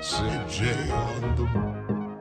CJ on the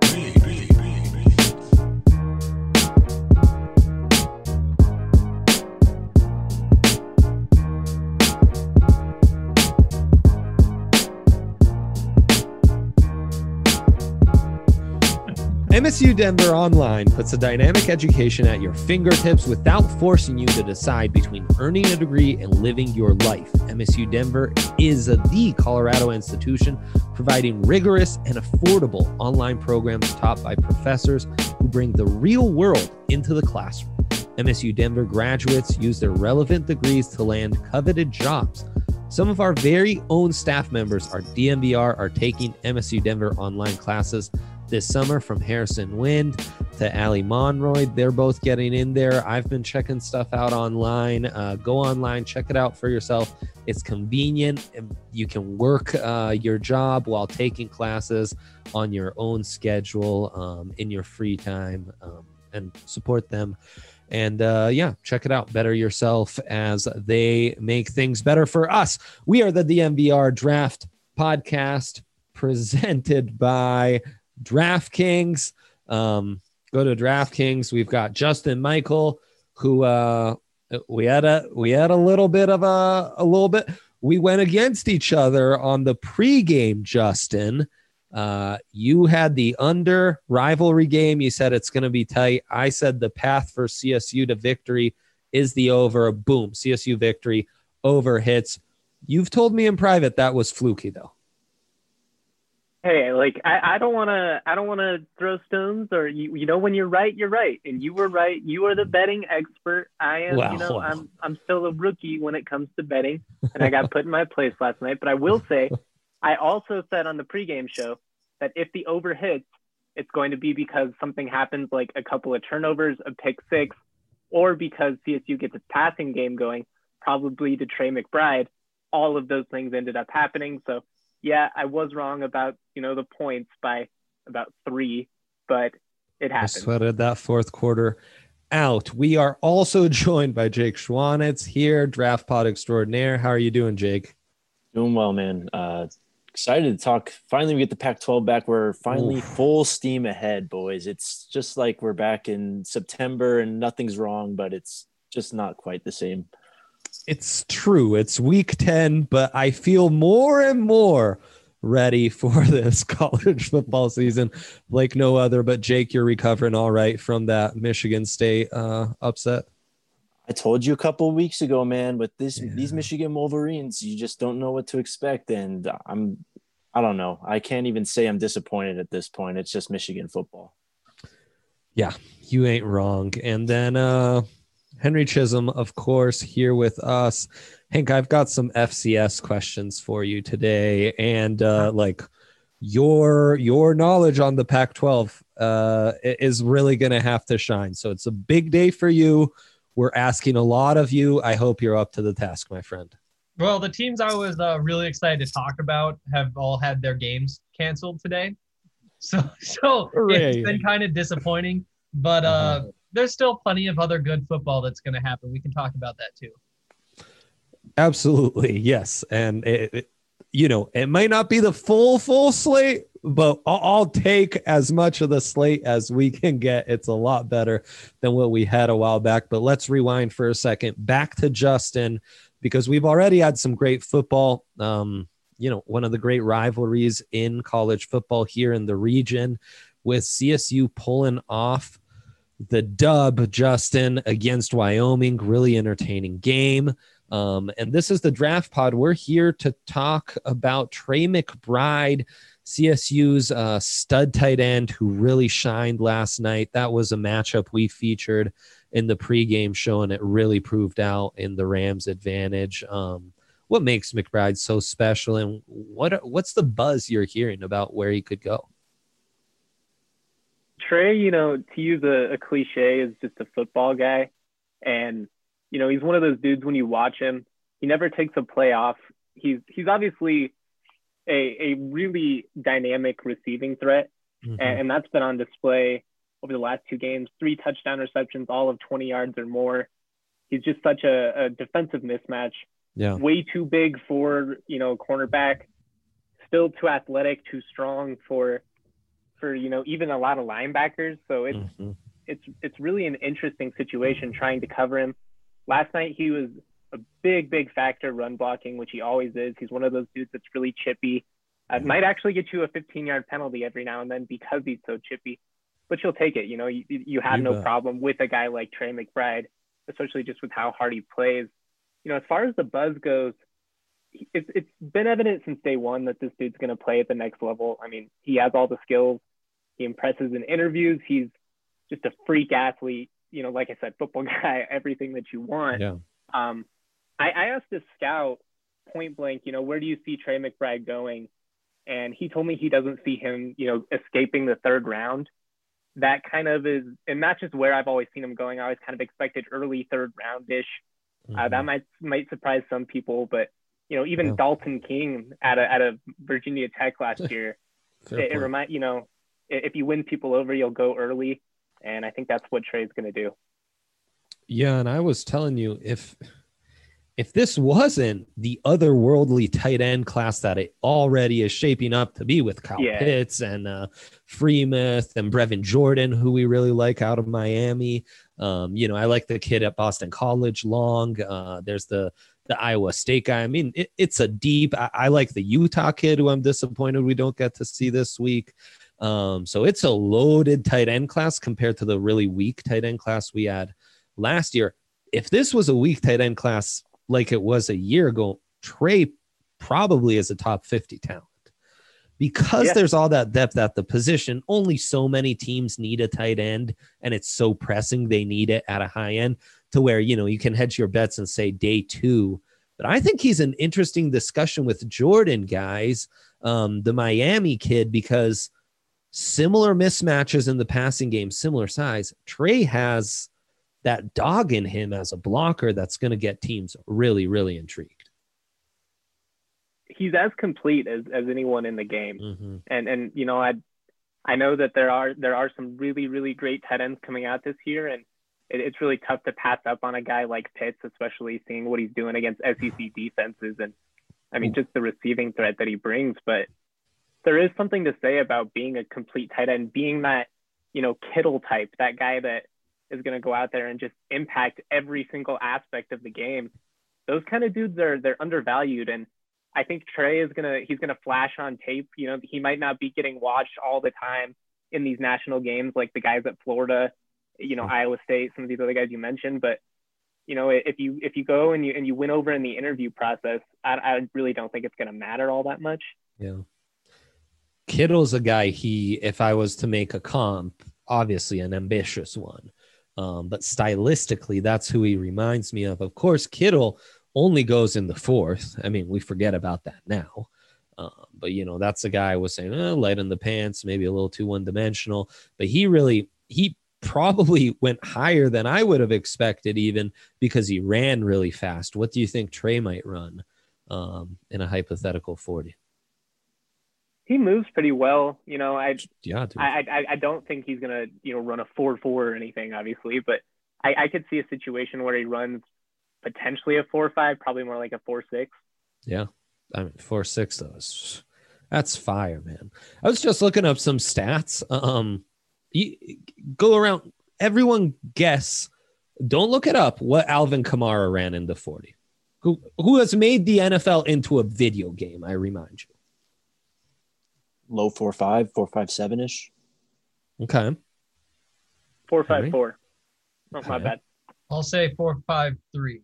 MSU Denver Online puts a dynamic education at your fingertips without forcing you to decide between earning a degree and living your life. MSU Denver is the Colorado institution providing rigorous and affordable online programs taught by professors who bring the real world into the classroom. MSU Denver graduates use their relevant degrees to land coveted jobs. Some of our very own staff members, our DNVR, are taking MSU Denver online classes this summer, from Harrison Wind to Ali Monroy. They're both getting in there. I've been checking stuff out online. Go online, check it out for yourself. It's convenient. You can work your job while taking classes on your own schedule in your free time, and support them. And check it out. Better yourself as they make things better for us. We are the DNVR Draft Podcast, presented by DraftKings. Go to DraftKings. We've got Justin Michael, who we had a little bit. We went against each other on the pregame. Justin, you had the under rivalry game. You said it's going to be tight. I said the path for CSU to victory is the over. Boom, CSU victory. Over hits. You've told me in private that was fluky, though. Hey, I don't want to throw stones, or you know, when you're right, you're right, and you were right. You are the betting expert. I am. I'm still a rookie when it comes to betting, and I got put in my place last night. But I will say, I also said on the pregame show that if the over hits, it's going to be because something happens, like a couple of turnovers, a pick six, or because CSU gets its passing game going, probably to Trey McBride. All of those things ended up happening. So yeah, I was wrong about, the points by about 3, but it happened. I sweated that fourth quarter out. We are also joined by Jake Schwanitz here, Draft Pod Extraordinaire. How are you doing, Jake? Doing well, man. Excited to talk. Finally, we get the Pac-12 back. We're finally full steam ahead, boys. It's just like we're back in September and nothing's wrong, but it's just not quite the same. It's true. It's week 10, but I feel more and more ready for this college football season like no other. But Jake, you're recovering all right from that Michigan State upset? I told you a couple of weeks ago, man, with these Michigan Wolverines, you just don't know what to expect. And I don't know. I can't even say I'm disappointed at this point. It's just Michigan football. Yeah, you ain't wrong. And then Henry Chisholm, of course, here with us. Hank, I've got some FCS questions for you today, and your knowledge on the Pac-12 is really going to have to shine. So it's a big day for you. We're asking a lot of you. I hope you're up to the task, my friend. Well, the teams I was really excited to talk about have all had their games canceled today, so it's been kind of disappointing. But there's still plenty of other good football that's going to happen. We can talk about that too. Absolutely. Yes. And it might not be the full slate, but I'll take as much of the slate as we can get. It's a lot better than what we had a while back, but let's rewind for a second back to Justin, because we've already had some great football. One of the great rivalries in college football here in the region, with CSU pulling off the dub, Justin, against Wyoming. Really entertaining game. And this is the Draft Pod. We're here to talk about Trey McBride, CSU's stud tight end, who really shined last night. That was a matchup we featured in the pregame show, and it really proved out in the Rams' advantage. What makes McBride so special, and what's the buzz you're hearing about where he could go? Trey, to use a cliche, is just a football guy. And, he's one of those dudes, when you watch him, he never takes a play off. He's obviously a really dynamic receiving threat. Mm-hmm. And that's been on display over the last 2 games, 3 touchdown receptions, all of 20 yards or more. He's just such a defensive mismatch. Yeah. Way too big for, cornerback. still too athletic, too strong for even a lot of linebackers. So it's really an interesting situation trying to cover him. Last night he was a big factor run blocking, which he always is. He's one of those dudes that's really chippy. Might actually get you a 15-yard penalty every now and then because he's so chippy, but you'll take it. You have no problem with a guy like Trey McBride, especially just with how hard he plays. As far as the buzz goes, it's been evident since day one that this dude's going to play at the next level. I mean, he has all the skills. He impresses in interviews. He's just a freak athlete. Like I said, football guy, everything that you want. Yeah. I asked this scout point blank, where do you see Trey McBride going? And he told me he doesn't see him, escaping the third round. That kind of is, and not just where I've always seen him going. I always kind of expected early third round-ish. That might surprise some people, but even Dalton King at a Virginia Tech last year, it reminds if you win people over, you'll go early, and I think that's what Trey's going to do. Yeah, and I was telling you, if this wasn't the otherworldly tight end class that it already is shaping up to be with Kyle Pitts and Freemuth and Brevin Jordan, who we really like out of Miami. I like the kid at Boston College, Long. There's the Iowa State guy. I mean, it's a deep. I like the Utah kid, who I'm disappointed we don't get to see this week. So it's a loaded tight end class compared to the really weak tight end class we had last year. If this was a weak tight end class like it was a year ago, Trey probably is a top 50 talent because there's all that depth at the position. Only so many teams need a tight end, and it's so pressing. They need it at a high end to where, you can hedge your bets and say day 2. But I think he's an interesting discussion with Jordan, guys, the Miami kid, because similar mismatches in the passing game, similar size. Trey has that dog in him as a blocker that's going to get teams really, really intrigued. He's as complete as anyone in the game. And I know that there are some really, really great tight ends coming out this year, and it's really tough to pass up on a guy like Pitts, especially seeing what he's doing against SEC defenses. And I mean, just the receiving threat that he brings. But there is something to say about being a complete tight end, being that, Kittle type, that guy that is going to go out there and just impact every single aspect of the game. Those kind of dudes they're undervalued. And I think Trey he's going to flash on tape. He might not be getting watched all the time in these national games, like the guys at Florida, Iowa State, some of these other guys you mentioned. But, if you go and you win over in the interview process, I really don't think it's going to matter all that much. Yeah. Kittle's a guy if I was to make a comp, obviously an ambitious one. But stylistically, that's who he reminds me of. Of course, Kittle only goes in the 4th. I mean, we forget about that now. But, that's a guy I was saying, light in the pants, maybe a little too one-dimensional. But he probably went higher than I would have expected, even because he ran really fast. What do you think Trey might run in a hypothetical 40? He moves pretty well. I don't think he's going to, run a 4.4 or anything, obviously, but I could see a situation where he runs potentially a 4.5, probably more like a 4.6. Yeah. I mean, 4.6 though. That's fire, man. I was just looking up some stats. You go around, everyone guess, don't look it up, what Alvin Kamara ran in the 40. Who has made the NFL into a video game, I remind you. Low 4.5, 4.57-ish. Okay. 4.54. Oh, my bad. I'll say 4.53.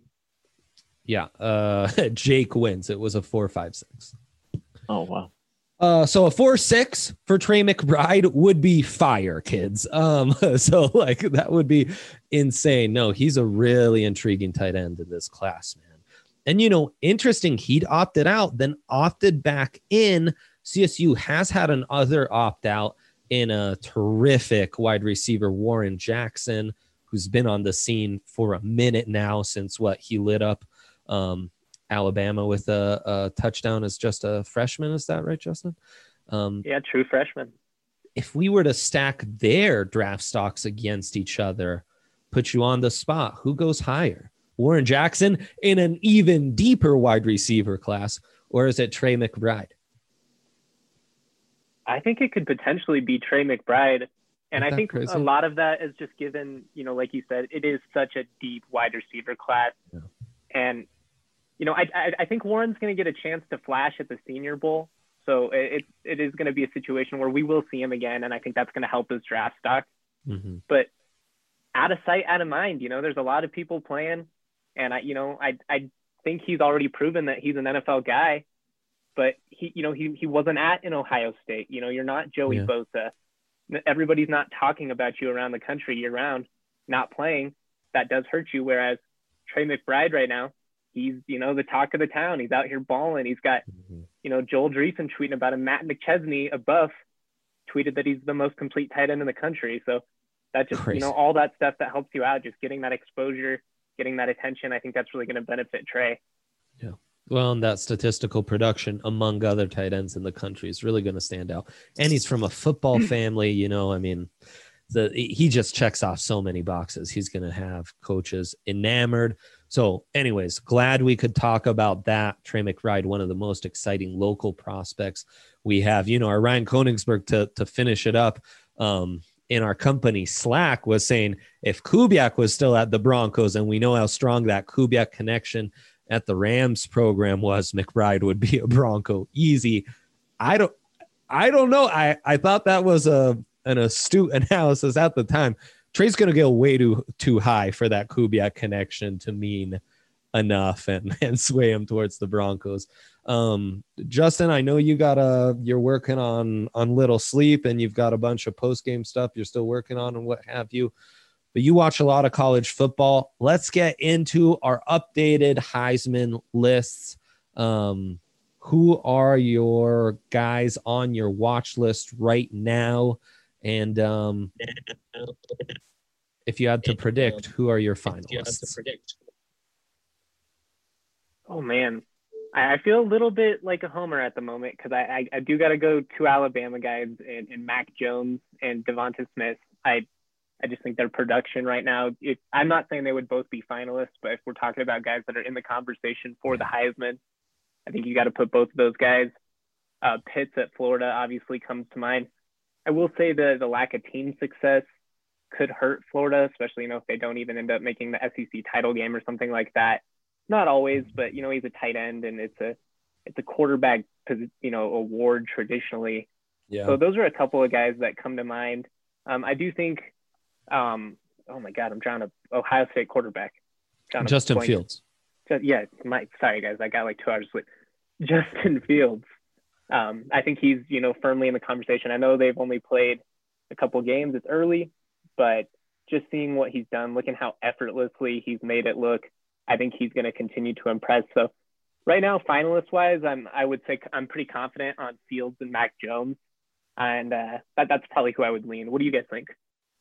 Yeah. Jake wins. It was a 4.56. Oh, wow. So a 4.6 for Trey McBride would be fire, kids. So that would be insane. No, he's a really intriguing tight end in this class, man. And, interesting, he'd opted out, then opted back in. CSU has had another opt-out in a terrific wide receiver, Warren Jackson, who's been on the scene for a minute now since he lit up Alabama with a touchdown as just a freshman. Is that right, Justin? Yeah, true freshman. If we were to stack their draft stocks against each other, put you on the spot, who goes higher? Warren Jackson in an even deeper wide receiver class, or is it Trey McBride? I think it could potentially be Trey McBride. And I think crazy? A lot of that is just given, like you said, it is such a deep wide receiver class. Yeah. And, I think Warren's going to get a chance to flash at the Senior Bowl. So it is going to be a situation where we will see him again. And I think that's going to help his draft stock. Mm-hmm. But out of sight, out of mind, there's a lot of people playing. And I think he's already proven that he's an NFL guy. But he wasn't at an Ohio State. You're not Joey Bosa. Everybody's not talking about you around the country year round, not playing. That does hurt you. Whereas Trey McBride right now, he's, the talk of the town. He's out here balling. He's got, Joel Dreesen tweeting about him. Matt McChesney, a buff, tweeted that he's the most complete tight end in the country. So that just, Crazy. All that stuff that helps you out, just getting that exposure, getting that attention. I think that's really going to benefit Trey. Yeah. Well, and that statistical production among other tight ends in the country is really going to stand out. And he's from a football family, he just checks off so many boxes. He's going to have coaches enamored. So anyways, glad we could talk about that. Trey McBride, one of the most exciting local prospects we have. Our Ryan Koenigsberg to finish it up in our company Slack was saying if Kubiak was still at the Broncos, and we know how strong that Kubiak connection at the Rams program was, McBride would be a Bronco easy. I don't know. I thought that was an astute analysis at the time. Trey's going to go way too high for that Kubiak connection to mean enough and sway him towards the Broncos. Justin, I know you're working on Little Sleep, and you've got a bunch of post-game stuff you're still working on and what have you. But you watch a lot of college football. Let's get into our updated Heisman lists. Who are your guys on your watch list right now? And if you had to predict, who are your finalists? Oh, man. I feel a little bit like a homer at the moment because I do got to go two Alabama guys in Mac Jones and Devonta Smith. I just think their production right now, I'm not saying they would both be finalists, but if we're talking about guys that are in the conversation for the Heisman, I think you got to put both of those guys. Pitts at Florida obviously comes to mind. I will say the lack of team success could hurt Florida, especially, if they don't even end up making the SEC title game or something like that. Not always, but, he's a tight end and it's a quarterback, award traditionally. Yeah. So those are a couple of guys that come to mind. I do think, oh my God, I'm drawing a Ohio State quarterback. Justin Fields. Sorry guys, I got like 2 hours sleep. Justin Fields. I think he's, firmly in the conversation. I know they've only played a couple games. It's early, but just seeing what he's done, looking how effortlessly he's made it look, I think he's going to continue to impress. So right now, finalist wise, I would say I'm pretty confident on Fields and Mac Jones. And that's probably who I would lean. What do you guys think?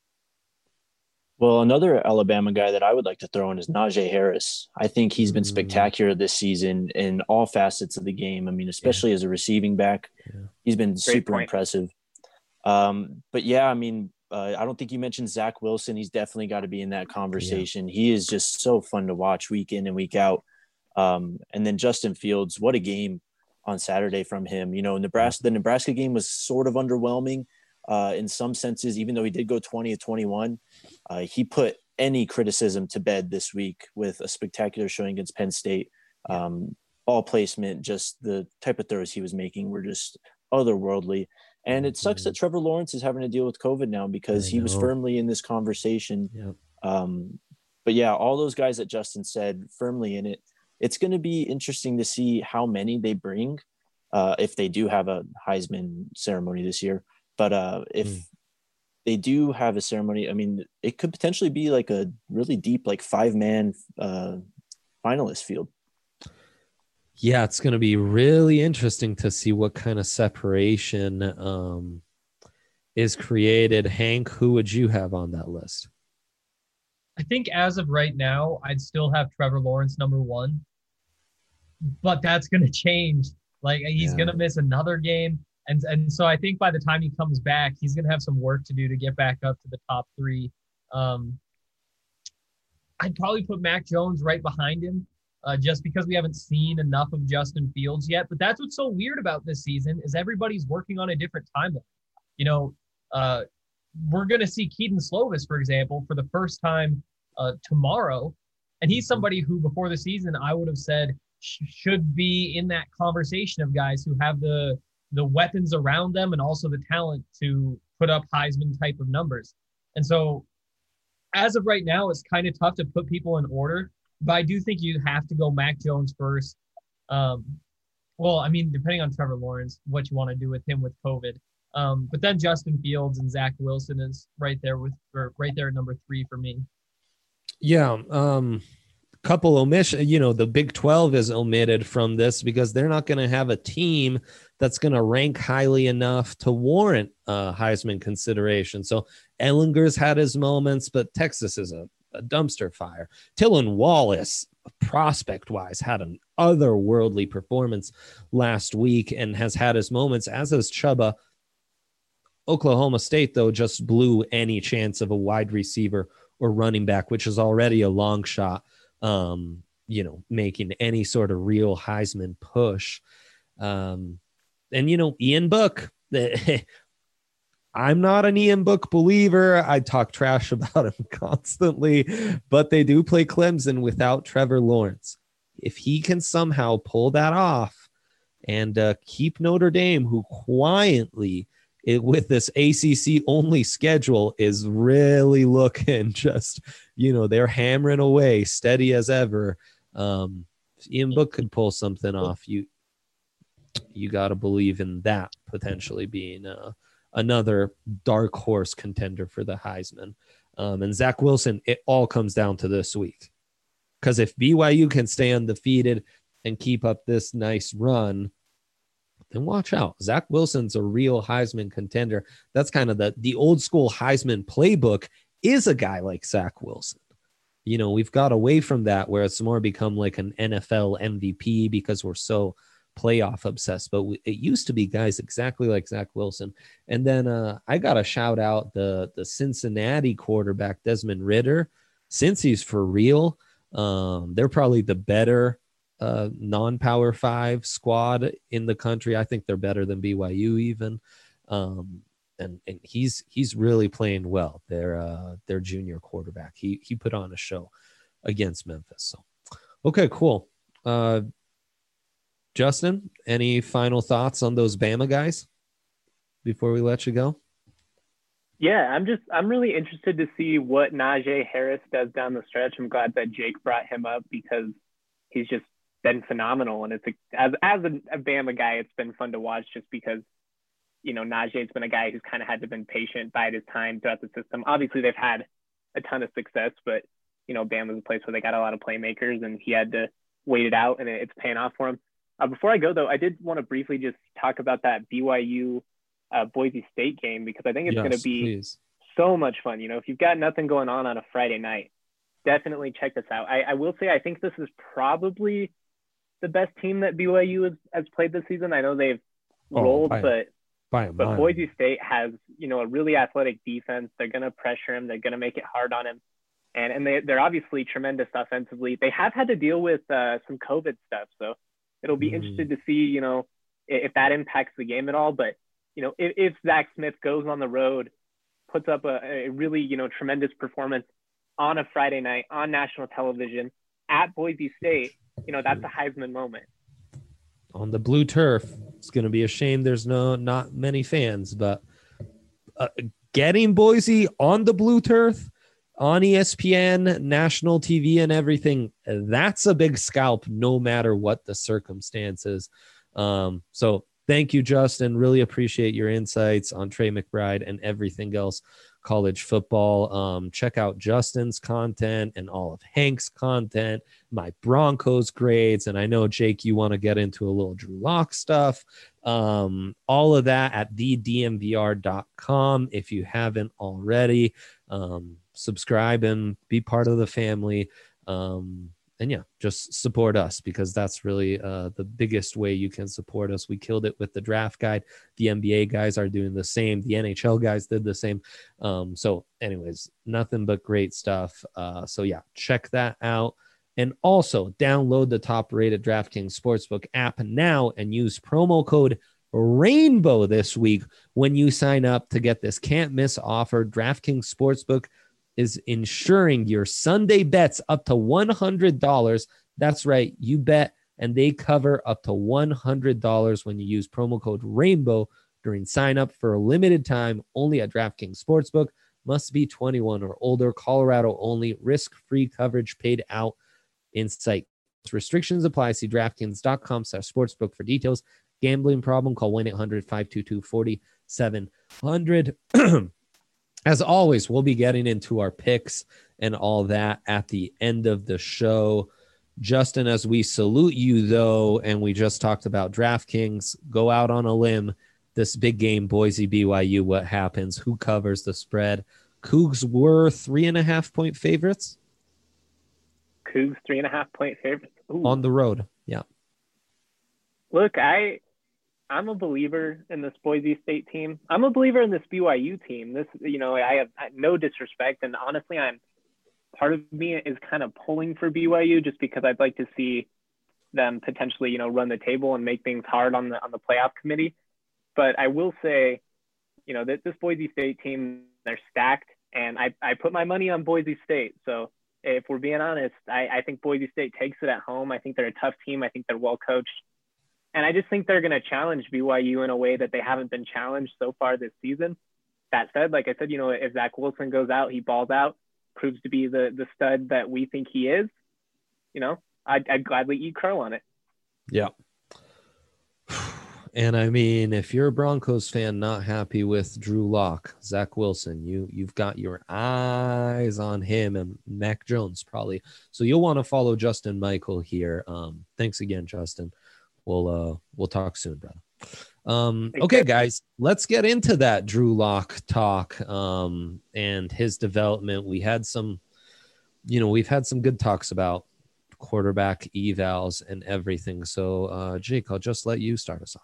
Well, another Alabama guy that I would like to throw in is Najee Harris. I think he's been spectacular this season in all facets of the game. I mean, especially as a receiving back, he's been super impressive. But yeah, I mean, I don't think you mentioned Zach Wilson. He's definitely got to be in that conversation. Yeah. He is just so fun to watch week in and week out. And then Justin Fields, what a game on Saturday from him. The Nebraska game was sort of underwhelming. In some senses, even though he did go 20-21, he put any criticism to bed this week with a spectacular showing against Penn State. Ball placement, just the type of throws he was making were just otherworldly. And it sucks that Trevor Lawrence is having to deal with COVID now because he was firmly in this conversation. Yep. But yeah, all those guys that Justin said, firmly in it. It's going to be interesting to see how many they bring if they do have a Heisman ceremony this year. But if they do have a ceremony, I mean, it could potentially be like a really deep, like 5-man finalist field. Yeah, it's going to be really interesting to see what kind of separation is created. Hank, who would you have on that list? I think as of right now, I'd still have Trevor Lawrence number 1, but that's going to change. Like he's going to miss another game. And so I think by the time he comes back, he's going to have some work to do to get back up to the top 3. I'd probably put Mac Jones right behind him. just because we haven't seen enough of Justin Fields yet. But that's what's so weird about this season is everybody's working on a different timeline. You know, we're going to see Keaton Slovis, for example, for the first time tomorrow. And he's somebody who before the season, I would have said should be in that conversation of guys who have the weapons around them and also the talent to put up Heisman type of numbers. And so as of right now, it's kind of tough to put people in order, but I do think you have to go Mac Jones first. Well, I mean, depending on Trevor Lawrence, what you want to do with him with COVID. But then Justin Fields and Zach Wilson is right there at number 3 for me. Yeah. Couple omission, the Big 12 is omitted from this because they're not going to have a team that's going to rank highly enough to warrant Heisman consideration. So Ellinger's had his moments, but Texas is a dumpster fire. Tylan Wallace, prospect-wise, had an otherworldly performance last week and has had his moments, as has Chuba. Oklahoma State, though, just blew any chance of a wide receiver or running back, which is already a long shot. Making any sort of real Heisman push. And Ian Book, I'm not an Ian Book believer. I talk trash about him constantly, but they do play Clemson without Trevor Lawrence. If he can somehow pull that off and keep Notre Dame, who quietly with this ACC only schedule is really looking just, they're hammering away steady as ever. Ian Book could pull something off. You got to believe in that potentially being another dark horse contender for the Heisman. And Zach Wilson, it all comes down to this week. Because if BYU can stay undefeated and keep up this nice run, then watch out. Zach Wilson's a real Heisman contender. That's kind of the old school Heisman playbook is a guy like Zach Wilson. We've got away from that where it's more become like an NFL MVP because we're so playoff obsessed. But it used to be guys exactly like Zach Wilson. And then I got to shout out the Cincinnati quarterback, Desmond Ridder. Since he's for real, they're probably the better non-Power 5 squad in the country. I think they're better than BYU even. And he's really playing well. Their junior quarterback. He put on a show against Memphis. So, okay, cool. Justin, any final thoughts on those Bama guys before we let you go? Yeah, I'm really interested to see what Najee Harris does down the stretch. I'm glad that Jake brought him up because he's just been phenomenal. And as a Bama guy, it's been fun to watch just because, Najee's been a guy who's kind of had to been patient, bide his time throughout the system. Obviously, they've had a ton of success, but, Bama's a place where they got a lot of playmakers and he had to wait it out and it's paying off for him. Before I go, though, I did want to briefly just talk about that BYU Boise State game because I think it's going to be so much fun. If you've got nothing going on a Friday night, definitely check this out. I will say I think this is probably the best team that BYU has played this season. I know they've rolled, but Boise State has, a really athletic defense. They're going to pressure him. They're going to make it hard on him. And they're obviously tremendous offensively. They have had to deal with some COVID stuff. So it'll be interested to see, if that impacts the game at all. But, if Zach Smith goes on the road, puts up a really, tremendous performance on a Friday night on national television at Boise State, that's a Heisman moment. On the blue turf, it's going to be a shame there's not many fans, but getting Boise on the blue turf, on ESPN, national TV and everything, that's a big scalp no matter what the circumstances. So thank you, Justin. Really appreciate your insights on Trey McBride and everything else college football. Check out Justin's content and all of Hank's content, my Broncos grades. And I know, Jake, you want to get into a little Drew Lock stuff. All of that at thedmvr.com. If you haven't already, subscribe and be part of the family. And yeah, just support us because that's really the biggest way you can support us. We killed it with the draft guide. The NBA guys are doing the same. The NHL guys did the same. So anyways, nothing but great stuff. So yeah, check that out. And also download the top-rated DraftKings Sportsbook app now and use promo code RAINBOW this week when you sign up to get this can't-miss offer. DraftKings Sportsbook is insuring your Sunday bets up to $100. That's right, you bet, and they cover up to $100 when you use promo code RAINBOW during sign-up for a limited time only at DraftKings Sportsbook. Must be 21 or older. Colorado only. Risk-free coverage paid out in sight. Restrictions apply. See DraftKings.com/sportsbook for details. Gambling problem? Call 1-800-522-4700. As always, we'll be getting into our picks and all that at the end of the show. Justin, as we salute you, though, and we just talked about DraftKings, go out on a limb. This big game, Boise, BYU, what happens? Who covers the spread? Cougs were 3.5-point favorites. Cougs 3.5-point favorites. Ooh. On the road. Yeah. Look, I'm a believer in this Boise State team. I'm a believer in this BYU team. This, I have no disrespect. And honestly, part of me is kind of pulling for BYU just because I'd like to see them potentially, run the table and make things hard on the playoff committee. But I will say, that this Boise State team, they're stacked. And I put my money on Boise State. So if we're being honest, I think Boise State takes it at home. I think they're a tough team. I think they're well coached. And I just think they're going to challenge BYU in a way that they haven't been challenged so far this season. That said, like I said, if Zach Wilson goes out, he balls out, proves to be the stud that we think he is, I'd gladly eat crow on it. Yeah. And I mean, if you're a Broncos fan not happy with Drew Lock, Zach Wilson, you've got your eyes on him and Mac Jones probably. So you'll want to follow Justin Michael here. Thanks again, Justin. We'll talk soon, brother. Okay, guys, let's get into that Drew Lock talk and his development. We've had some good talks about quarterback evals and everything. So, Jake, I'll just let you start us off.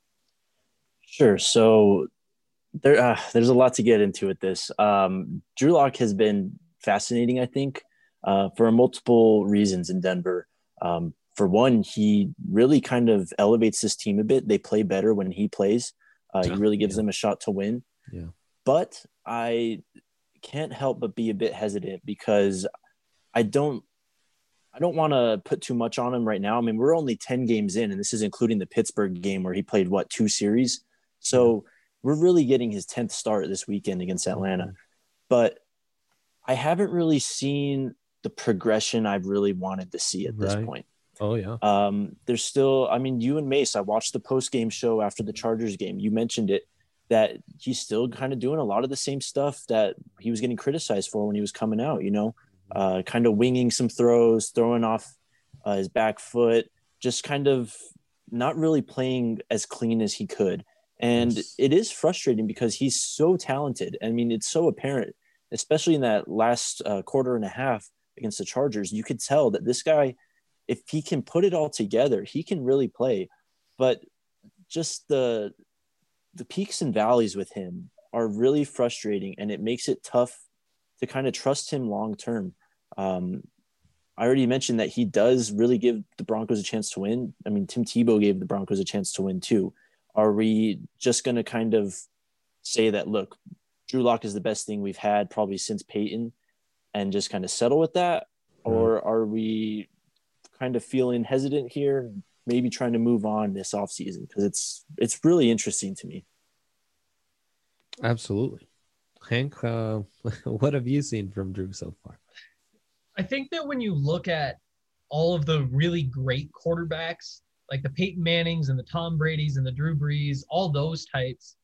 Sure. So there's a lot to get into with this. Drew Lock has been fascinating, I think, for multiple reasons in Denver. For one, he really kind of elevates this team a bit. They play better when he plays. He really gives them a shot to win. Yeah. But I can't help but be a bit hesitant because I don't want to put too much on him right now. I mean, we're only 10 games in, and this is including the Pittsburgh game where he played, 2 series? So we're really getting his 10th start this weekend against Atlanta. But I haven't really seen the progression I've really wanted to see at this point. Oh, yeah. There's still, you and Mace, I watched the post-game show after the Chargers game. You mentioned it, that he's still kind of doing a lot of the same stuff that he was getting criticized for when he was coming out, kind of winging some throws, throwing off his back foot, just kind of not really playing as clean as he could. And it is frustrating because he's so talented. I mean, it's so apparent, especially in that last quarter and a half against the Chargers. You could tell that this guy, if he can put it all together, he can really play. But just the peaks and valleys with him are really frustrating, and it makes it tough to kind of trust him long term. I already mentioned that he does really give the Broncos a chance to win. I mean, Tim Tebow gave the Broncos a chance to win too. Are we just going to kind of say that, look, Drew Lock is the best thing we've had probably since Peyton and just kind of settle with that? Or are we kind of feeling hesitant here, maybe trying to move on this offseason? Because it's really interesting to me. Absolutely. Hank, what have you seen from Drew so far? I think that when you look at all of the really great quarterbacks, like the Peyton Mannings and the Tom Bradys and the Drew Brees, all those types,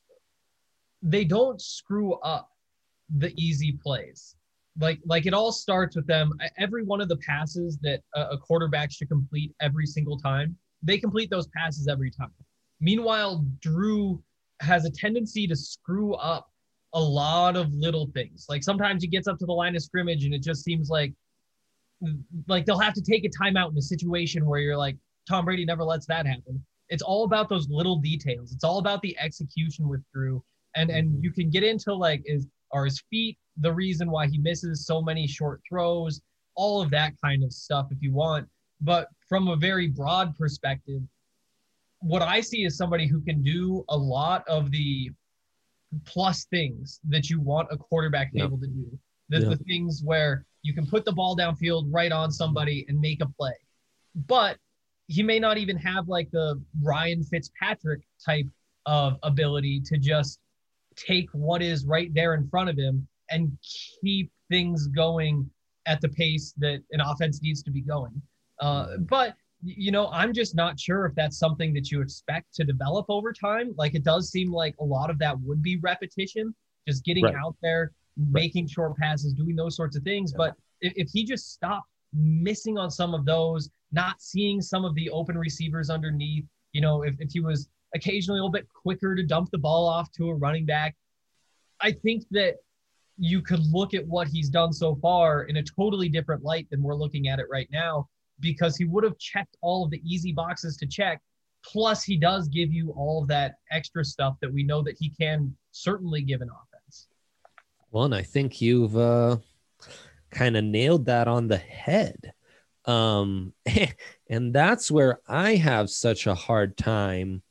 they don't screw up the easy plays. Like it all starts with them. Every one of the passes that a quarterback should complete every single time, they complete those passes every time. Meanwhile, Drew has a tendency to screw up a lot of little things. Like sometimes he gets up to the line of scrimmage and it just seems like they'll have to take a timeout in a situation where you're like, Tom Brady never lets that happen. It's all about those little details. It's all about the execution with Drew. And you can get into are his feet the reason why he misses so many short throws, all of that kind of stuff if you want. But from a very broad perspective, what I see is somebody who can do a lot of the plus things that you want a quarterback to be able to do. The things where you can put the ball downfield right on somebody and make a play. But he may not even have like the Ryan Fitzpatrick type of ability to just take what is right there in front of him and keep things going at the pace that an offense needs to be going. But, you know, I'm just not sure if that's something that you expect to develop over time. Like, it does seem like a lot of that would be repetition, just getting out there, making short passes, doing those sorts of things. But if he just stopped missing on some of those, not seeing some of the open receivers underneath, you know, if he was occasionally a little bit quicker to dump the ball off to a running back, I think that you could look at what he's done so far in a totally different light than we're looking at it right now, because he would have checked all of the easy boxes to check. Plus, he does give you all of that extra stuff that we know that he can certainly give an offense. Well, and I think you've kind of nailed that on the head. And that's where I have such a hard time,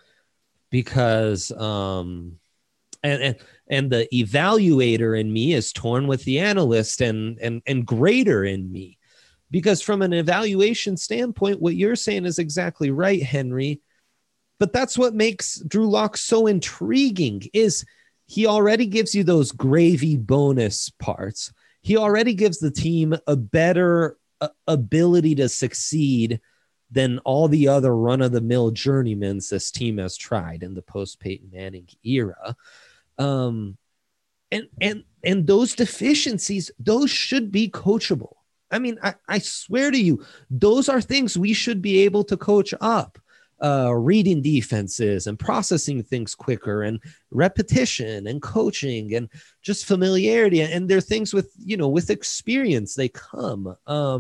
because and the evaluator in me is torn with the analyst and grader in me, because from an evaluation standpoint, what you're saying is exactly right, Henry. But that's what makes Drew Lock so intriguing, is he already gives you those gravy bonus parts. He already gives the team a better ability to succeed than all the other run-of-the-mill journeymans this team has tried in the post-Peyton Manning era. And those deficiencies, those should be coachable. I mean, I swear to you, those are things we should be able to coach up. Reading defenses and processing things quicker, and repetition and coaching and just familiarity. And they're things with, you know, with experience, they come.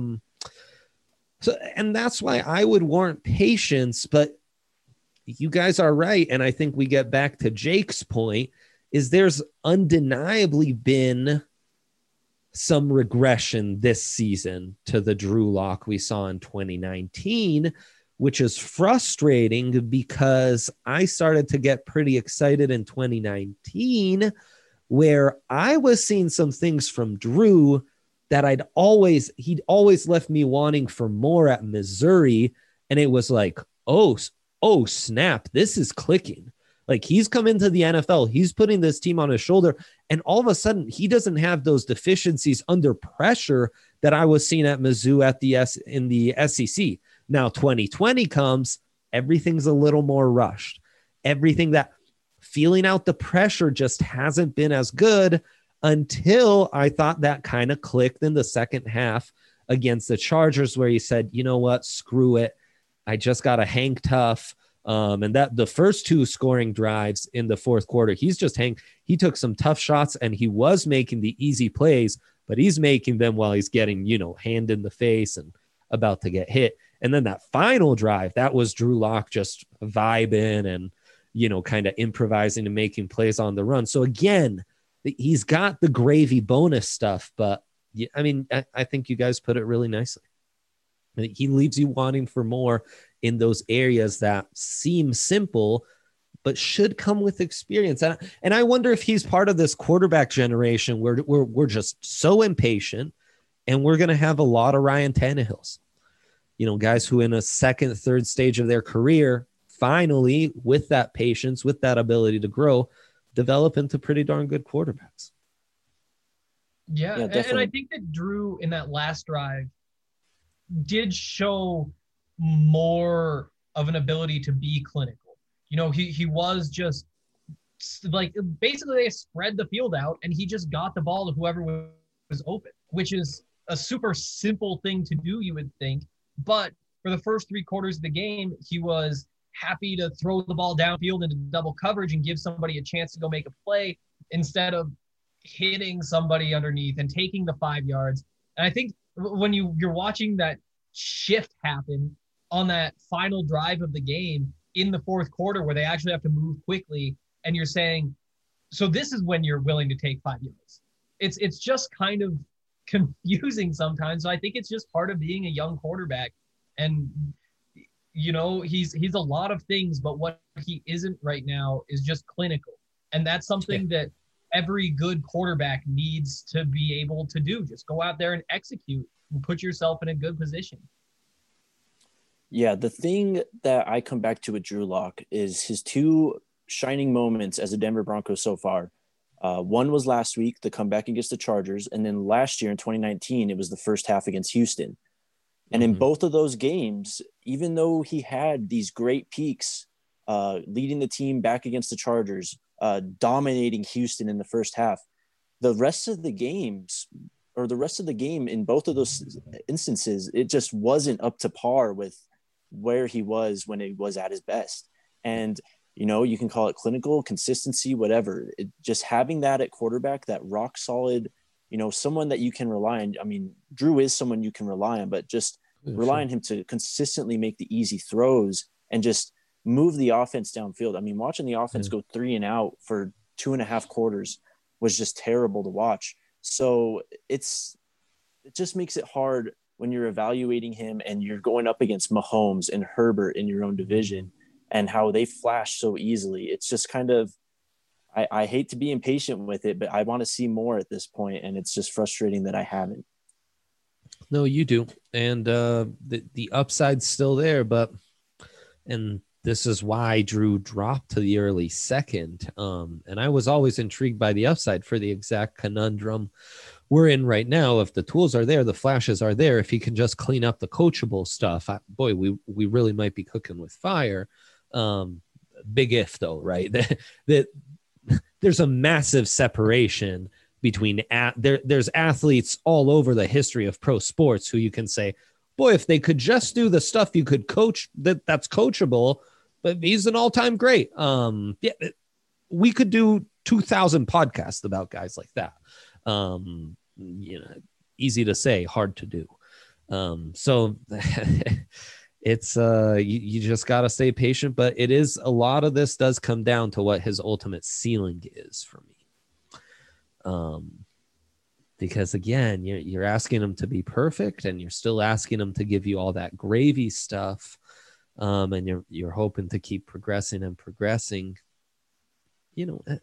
So, and that's why I would warrant patience, but you guys are right. And I think we get back to Jake's point, is there's undeniably been some regression this season to the Drew Lock we saw in 2019, which is frustrating, because I started to get pretty excited in 2019, where I was seeing some things from Drew that he'd always left me wanting for more at Missouri. And it was like, oh snap, this is clicking. Like, he's come into the NFL, he's putting this team on his shoulder, and all of a sudden he doesn't have those deficiencies under pressure that I was seeing at Mizzou in the SEC. Now 2020 comes, everything's a little more rushed. Everything, that feeling out the pressure just hasn't been as good, until I thought that kind of clicked in the second half against the Chargers, where he said, you know what, screw it. I just got to hang tough. And that the first two scoring drives in the fourth quarter, he took some tough shots, and he was making the easy plays, but he's making them while he's getting, you know, hand in the face and about to get hit. And then that final drive, that was Drew Lock just vibing and, you know, kind of improvising and making plays on the run. So again, he's got the gravy bonus stuff, but I mean, I think you guys put it really nicely. He leaves you wanting for more in those areas that seem simple, but should come with experience. And I wonder if he's part of this quarterback generation where we're just so impatient, and we're going to have a lot of Ryan Tannehills, you know, guys who in a second, third stage of their career, finally, with that patience, with that ability to grow, develop into pretty darn good quarterbacks. Yeah, and I think that Drew in that last drive did show more of an ability to be clinical. You know, he was just like, basically they spread the field out and he just got the ball to whoever was open, which is a super simple thing to do, you would think. But for the first 3 quarters of the game, he was happy to throw the ball downfield into double coverage and give somebody a chance to go make a play instead of hitting somebody underneath and taking the 5 yards. And I think when you're watching that shift happen on that final drive of the game in the fourth quarter where they actually have to move quickly, and you're saying, so this is when you're willing to take 5 yards. It's just kind of confusing sometimes. So I think it's just part of being a young quarterback. And, you know, he's a lot of things, but what he isn't right now is just clinical. And that's something that every good quarterback needs to be able to do. Just go out there and execute and put yourself in a good position. Yeah, the thing that I come back to with Drew Lock is his two shining moments as a Denver Bronco so far. One was last week, the comeback against the Chargers. And then last year in 2019, it was the first half against Houston. And in both of those games, even though he had these great peaks, leading the team back against the Chargers, dominating Houston in the first half, the rest of the game in both of those instances, it just wasn't up to par with where he was when he was at his best. And, you know, you can call it clinical consistency, whatever. Just having that at quarterback, that rock solid, you know, someone that you can rely on. I mean, Drew is someone you can rely on, but just rely on him to consistently make the easy throws and just move the offense downfield. I mean, watching the offense go 3 and out for 2.5 quarters was just terrible to watch. So it just makes it hard when you're evaluating him and you're going up against Mahomes and Herbert in your own division and how they flash so easily. It's just kind of, I hate to be impatient with it, but I want to see more at this point, and it's just frustrating that I haven't. No, you do. And the upside's still there, and this is why Drew dropped to the early second. And I was always intrigued by the upside for the exact conundrum we're in right now. If the tools are there, the flashes are there, if he can just clean up the coachable stuff, we really might be cooking with fire. Big if though, right? that there's a massive separation between there's athletes all over the history of pro sports who you can say, boy, if they could just do the stuff you could coach, that's coachable, but he's an all-time great. Yeah, we could do 2,000 podcasts about guys like that. You know, easy to say, hard to do. So it's you just got to stay patient, but it is, a lot of this does come down to what his ultimate ceiling is for me. Because again, you're asking him to be perfect, and you're still asking him to give you all that gravy stuff. And you're hoping to keep progressing and progressing. You know,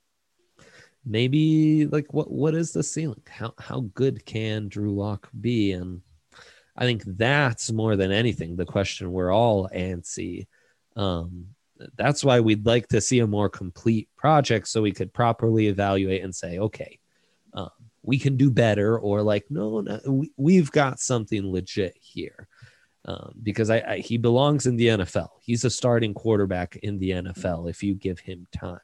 maybe like what is the ceiling? How good can Drew Lock be? And I think that's more than anything the question we're all antsy. That's why we'd like to see a more complete project so we could properly evaluate and say, okay, we can do better, or like, no, we've got something legit here. Because he belongs in the NFL. He's a starting quarterback in the NFL if you give him time.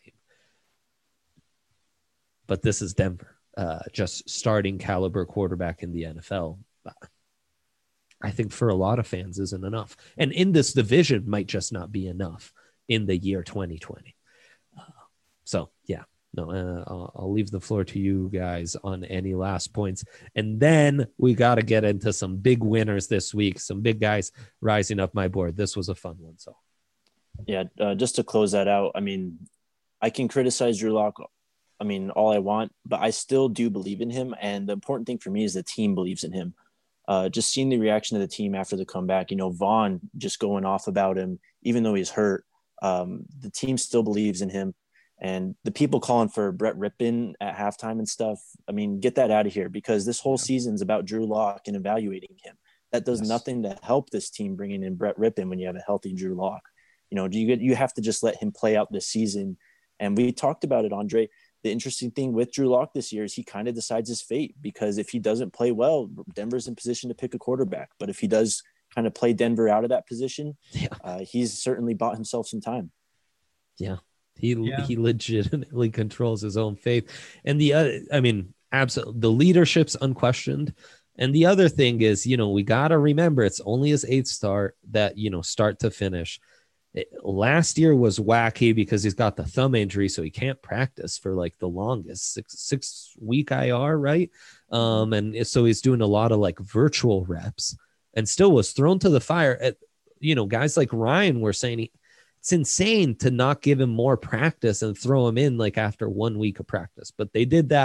But this is Denver, just starting caliber quarterback in the NFL. I think for a lot of fans isn't enough. And in this division might just not be enough in the year 2020. So, yeah. No, I'll leave the floor to you guys on any last points. And then we got to get into some big winners this week, some big guys rising up my board. This was a fun one. So, yeah, just to close that out, I mean, I can criticize Drew Lock, I mean, all I want, but I still do believe in him. And the important thing for me is the team believes in him. Just seeing the reaction of the team after the comeback, you know, Vaughn just going off about him, even though he's hurt, the team still believes in him. And the people calling for Brett Rippon at halftime and stuff, I mean, get that out of here, because this whole season's about Drew Lock and evaluating him. That does nothing to help this team bringing in Brett Rippon when you have a healthy Drew Lock. You know, you have to just let him play out this season. And we talked about it, Andre. The interesting thing with Drew Lock this year is he kind of decides his fate, because if he doesn't play well, Denver's in position to pick a quarterback. But if he does kind of play Denver out of that position, he's certainly bought himself some time. Yeah. He legitimately controls his own fate. And the other, I mean, absolutely, the leadership's unquestioned. And the other thing is, you know, we got to remember it's only his 8th start that, you know, start to finish. Last year was wacky because he's got the thumb injury, so he can't practice for like the longest 6-week IR, right? And so he's doing a lot of like virtual reps, and still was thrown to the fire. At, you know, guys like Ryan were saying it's insane to not give him more practice and throw him in like after 1 week of practice, but they did that.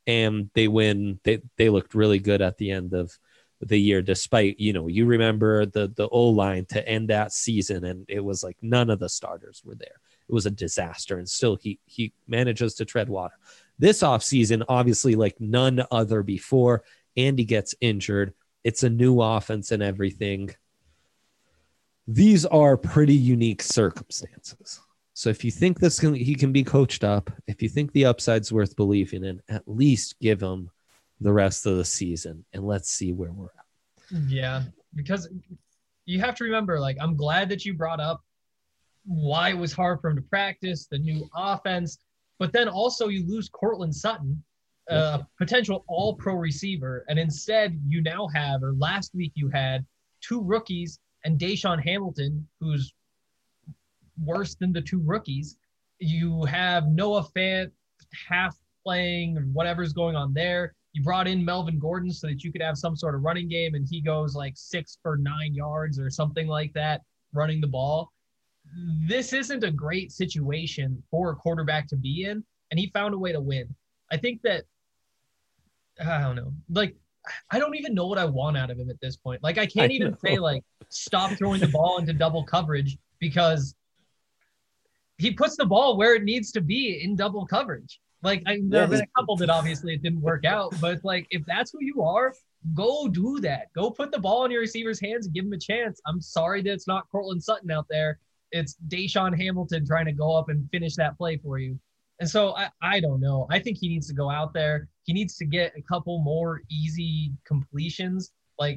and they win. They looked really good at the end of the year, despite, you remember the O-line to end that season, and it was like none of the starters were there. It was a disaster, and still he manages to tread water. This offseason, obviously like none other before, Andy gets injured. It's a new offense and everything. These are pretty unique circumstances. So if you think he can be coached up, if you think the upside's worth believing in, at least give him the rest of the season and let's see where we're at. Yeah, because you have to remember, like, I'm glad that you brought up why it was hard for him to practice, the new offense, but then also you lose Courtland Sutton, a potential all-pro receiver, and instead you now have, or last week you had, 2 rookies and Deshaun Hamilton, who's worse than the 2 rookies. You have Noah Fant half playing, whatever's going on there. You brought in Melvin Gordon so that you could have some sort of running game, and he goes like 6 for 9 yards or something like that, running the ball. This isn't a great situation for a quarterback to be in, and he found a way to win. I think that, I don't know, like, I don't even know what I want out of him at this point. Like, I can't even say, like, stop throwing the ball into double coverage, because he puts the ball where it needs to be in double coverage. Like, there have been a couple that obviously it didn't work out, but like, if that's who you are, go do that. Go put the ball in your receiver's hands and give him a chance. I'm sorry that it's not Courtland Sutton out there. It's Deshaun Hamilton trying to go up and finish that play for you. And so I don't know. I think he needs to go out there. He needs to get a couple more easy completions. Like,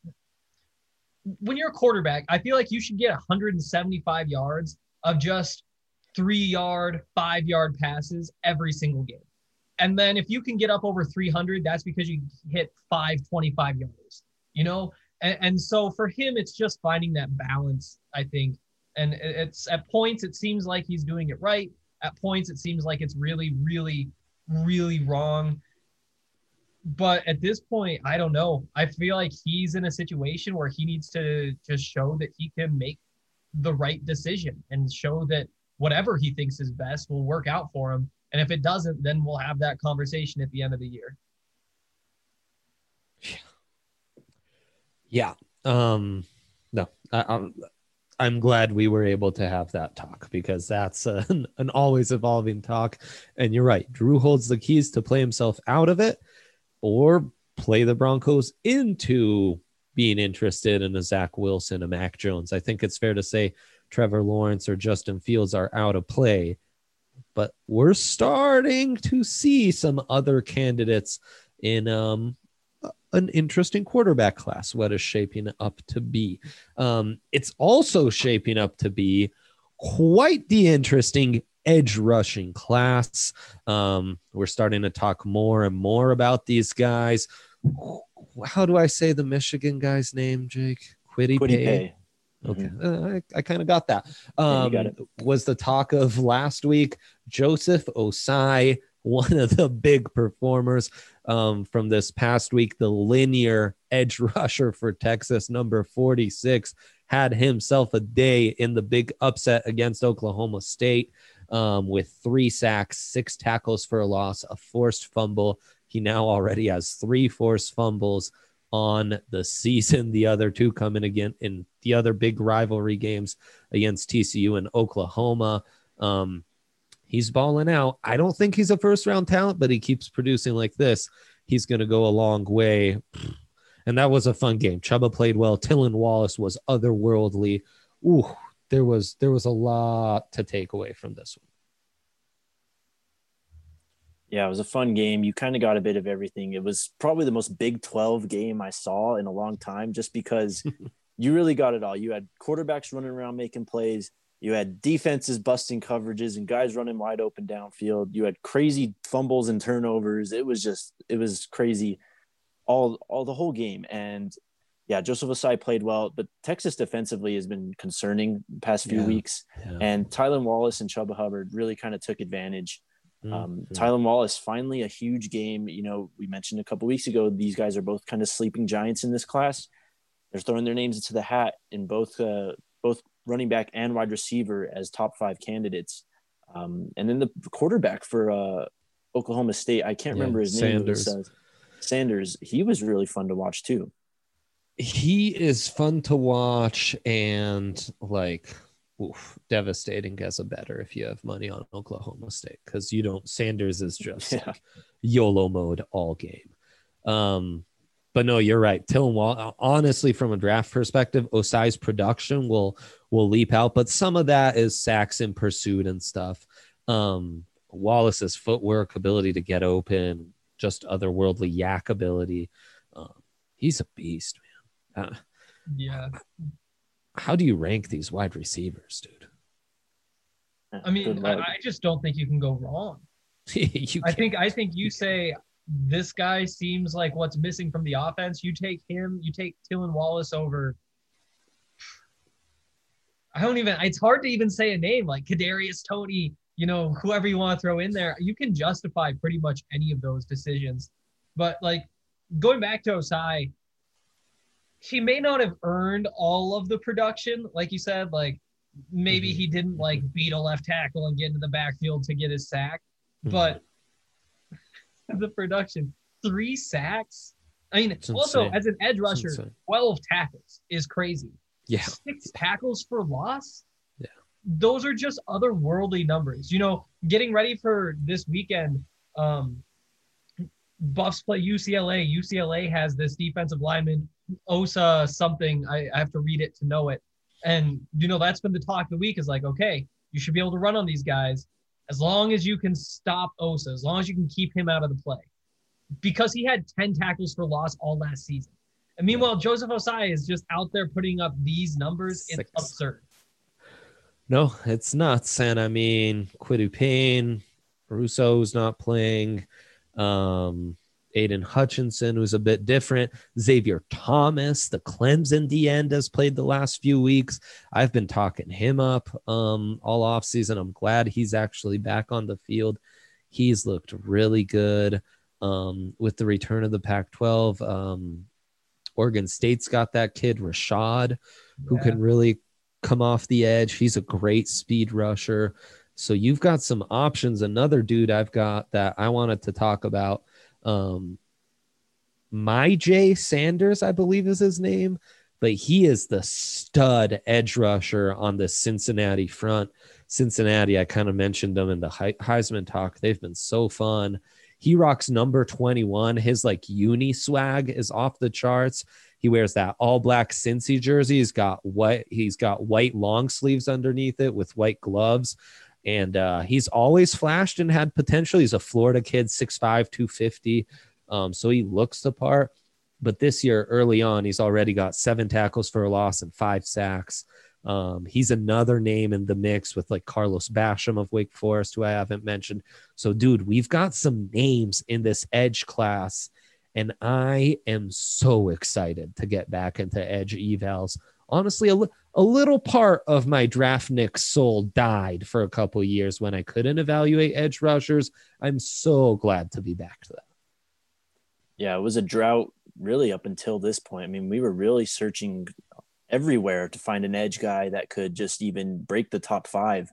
when you're a quarterback, I feel like you should get 175 yards of just 3-yard, 5-yard passes every single game. And then if you can get up over 300, that's because you hit 525 yards, And so for him, it's just finding that balance, I think. And it's at points, it seems like he's doing it right. At points, it seems like it's really, really, really wrong. But at this point, I don't know. I feel like he's in a situation where he needs to just show that he can make the right decision and show that whatever he thinks is best will work out for him. And if it doesn't, then we'll have that conversation at the end of the year. Yeah. No, I'm glad we were able to have that talk, because that's an always evolving talk. And you're right. Drew holds the keys to play himself out of it or play the Broncos into being interested in a Zach Wilson, a Mac Jones. I think it's fair to say Trevor Lawrence or Justin Fields are out of play, but we're starting to see some other candidates in an interesting quarterback class, what is shaping up to be. It's also shaping up to be quite the interesting edge rushing class. We're starting to talk more and more about these guys. How do I say the Michigan guy's name, Jake? Kwity Paye. Okay, I kind of got that. You got it. Was the talk of last week. Joseph Osai, one of the big performers from this past week, the linear edge rusher for Texas, number 46, had himself a day in the big upset against Oklahoma State with 3 sacks, 6 tackles for a loss, a forced fumble. He now already has 3 forced fumbles on the season. The other 2 coming again in the other big rivalry games against TCU and Oklahoma. He's balling out. I don't think he's a first-round talent, but he keeps producing like this. He's going to go a long way. And that was a fun game. Chuba played well. Tylan Wallace was otherworldly. Ooh, there was a lot to take away from this one. Yeah, it was a fun game. You kind of got a bit of everything. It was probably the most Big 12 game I saw in a long time, just because you really got it all. You had quarterbacks running around making plays. You had defenses busting coverages and guys running wide open downfield. You had crazy fumbles and turnovers. It was crazy all the whole game. And yeah, Joseph Osai played well, but Texas defensively has been concerning the past few weeks. Yeah. And Tylan Wallace and Chuba Hubbard really kind of took advantage. Tylan Wallace, finally a huge game. We mentioned a couple weeks ago, these guys are both kind of sleeping giants in this class. They're throwing their names into the hat in both running back and wide receiver as top 5 candidates. And then the quarterback for Oklahoma State. I can't remember his name. Sanders. He was really fun to watch too. He is fun to watch and like devastating as a bettor if you have money on Oklahoma State, because you don't. Sanders is just like YOLO mode all game. But no, you're right. Tylan Wallace, honestly, from a draft perspective, Osai's production will leap out, but some of that is sacks in pursuit and stuff. Wallace's footwork, ability to get open, just otherworldly yak ability. He's a beast, man. Yeah. How do you rank these wide receivers, dude? I mean, I just don't think you can go wrong. I think you say this guy seems like what's missing from the offense. You take him, you take Tylan Wallace over. It's hard to even say a name like Kadarius Toney, whoever you want to throw in there. You can justify pretty much any of those decisions. But like going back to Osai, he may not have earned all of the production. Like you said, like maybe he didn't like beat a left tackle and get into the backfield to get his sack, but the production, 3 sacks. I mean, also as an edge rusher, 12 tackles is crazy. Yeah. 6 tackles for loss. Yeah. Those are just otherworldly numbers. Getting ready for this weekend, Buffs play UCLA. UCLA has this defensive lineman, Osa something. I have to read it to know it. And, that's been the talk of the week is like, okay, you should be able to run on these guys as long as you can stop Osa, as long as you can keep him out of the play. Because he had 10 tackles for loss all last season. And meanwhile, Joseph Osai is just out there putting up these numbers. 6. It's absurd. No, it's nuts. And I mean, Quidu Payne, Russo's not playing. Aiden Hutchinson, who's a bit different. Xavier Thomas, the Clemson D end, has played the last few weeks. I've been talking him up all offseason. I'm glad he's actually back on the field. He's looked really good with the return of the Pac-12. Oregon State's got that kid, Rashad, who can really come off the edge. He's a great speed rusher. So you've got some options. Another dude I've got that I wanted to talk about, Myjai Sanders, I believe is his name, but he is the stud edge rusher on the Cincinnati front. Cincinnati, I kind of mentioned them in the Heisman talk. They've been so fun. He rocks number 21. His like uni swag is off the charts. He wears that all black Cincy jersey. He's got white long sleeves underneath it with white gloves. And he's always flashed and had potential. He's a Florida kid, 6'5", 250. So he looks the part. But this year, early on, he's already got 7 tackles for a loss and 5 sacks. He's another name in the mix with like Carlos Basham of Wake Forest, who I haven't mentioned. So, dude, we've got some names in this edge class. And I am so excited to get back into edge evals. Honestly, a little part of my DraftNix soul died for a couple of years when I couldn't evaluate edge rushers. I'm so glad to be back to that. Yeah, it was a drought really up until this point. I mean, we were really searching everywhere to find an edge guy that could just even break the top 5.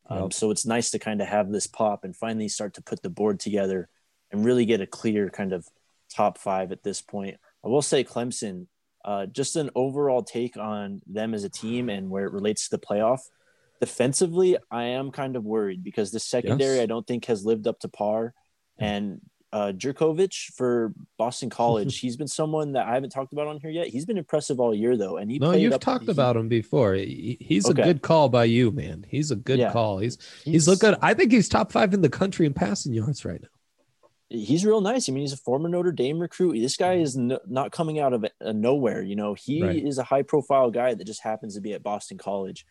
So it's nice to kind of have this pop and finally start to put the board together and really get a clear kind of top 5 at this point. I will say Clemson, just an overall take on them as a team and where it relates to the playoff. Defensively, I am kind of worried because the secondary I don't think has lived up to par. And Jurkovec for Boston College, he's been someone that I haven't talked about on here yet. He's been impressive all year, though. And you've talked about him before. He's a good call by you, man. He's a good call. He's look good. I think he's top 5 in the country in passing yards right now. He's real nice. I mean, he's a former Notre Dame recruit. This guy is not coming out of nowhere. He is a high-profile guy that just happens to be at Boston College.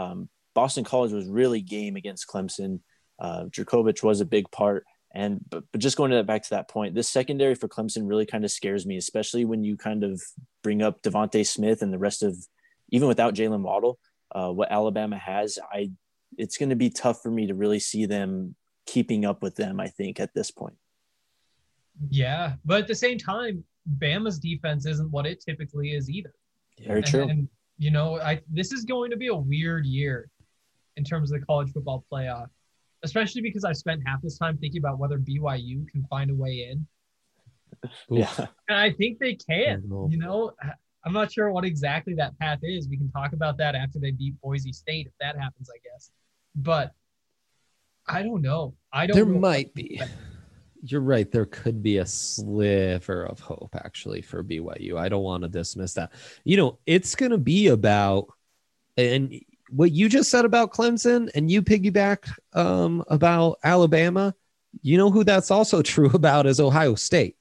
Boston College was really game against Clemson. Jurkovec was a big part. But just going back to that point, this secondary for Clemson really kind of scares me, especially when you kind of bring up Devontae Smith and the rest of, even without Jalen Waddle, what Alabama has. It's going to be tough for me to really see them keeping up with them, I think, at this point. Yeah, but at the same time, Bama's defense isn't what it typically is either. Very true. And this is going to be a weird year in terms of the college football playoff. especially because I've spent half this time thinking about whether BYU can find a way in. Yeah. And I think they can. You know, I'm not sure what exactly that path is. We can talk about that after they beat Boise State, if that happens, I guess. But I don't know. There might be. You're right. There could be a sliver of hope, actually, for BYU. I don't want to dismiss that. You know, it's going to be about, and what you just said about Clemson, and you piggybacked about Alabama, you know who that's also true about is Ohio State.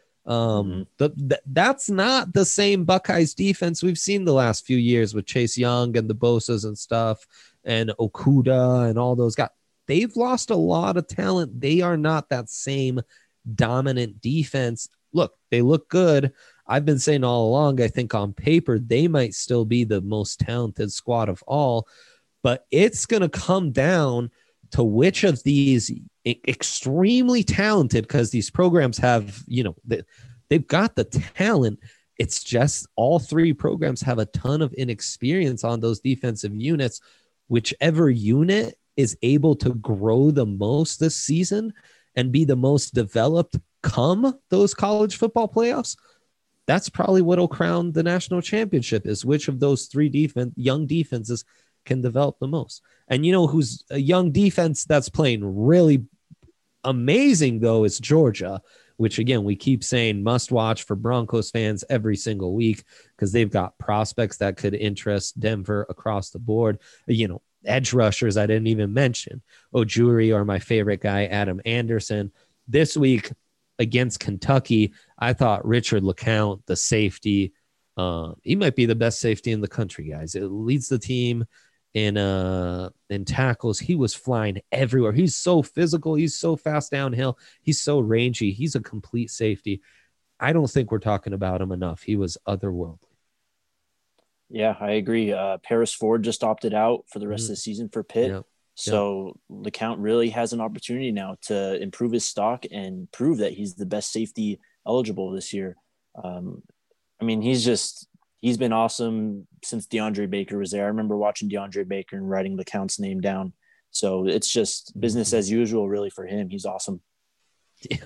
That's not the same Buckeyes defense we've seen the last few years with Chase Young and the Bosas and stuff, and Okuda and all those guys. They've lost a lot of talent. They are not that same dominant defense. Look, they look good. I've been saying all along, I think on paper, they might still be the most talented squad of all, but it's going to come down to which of these extremely talented, because these programs have, you know, they've got the talent. It's just all three programs have a ton of inexperience on those defensive units. Whichever unit is able to grow the most this season and be the most developed come those college football playoffs, that's probably what'll crown the national championship, is which of those three young defenses can develop the most. And you know who's a young defense that's playing really amazing, though, is Georgia, which, again, we keep saying must watch for Broncos fans every single week because they've got prospects that could interest Denver across the board. You know, edge rushers I didn't even mention. Ojuri, or my favorite guy, Adam Anderson. This week against Kentucky, I thought Richard LeCounte, the safety, he might be the best safety in the country, guys. It leads the team in tackles. He was flying everywhere. He's so physical. He's so fast downhill. He's so rangy. He's a complete safety. I don't think we're talking about him enough. He was otherworldly. Yeah, I agree. Paris Ford just opted out for the rest of the season for Pitt. Yep. So LeCounte really has an opportunity now to improve his stock and prove that he's the best safety eligible this year. I mean, he's been awesome since DeAndre Baker was there. I remember watching DeAndre Baker and writing LeCounte's name down. So it's just business as usual, really, for him. He's awesome. Yeah,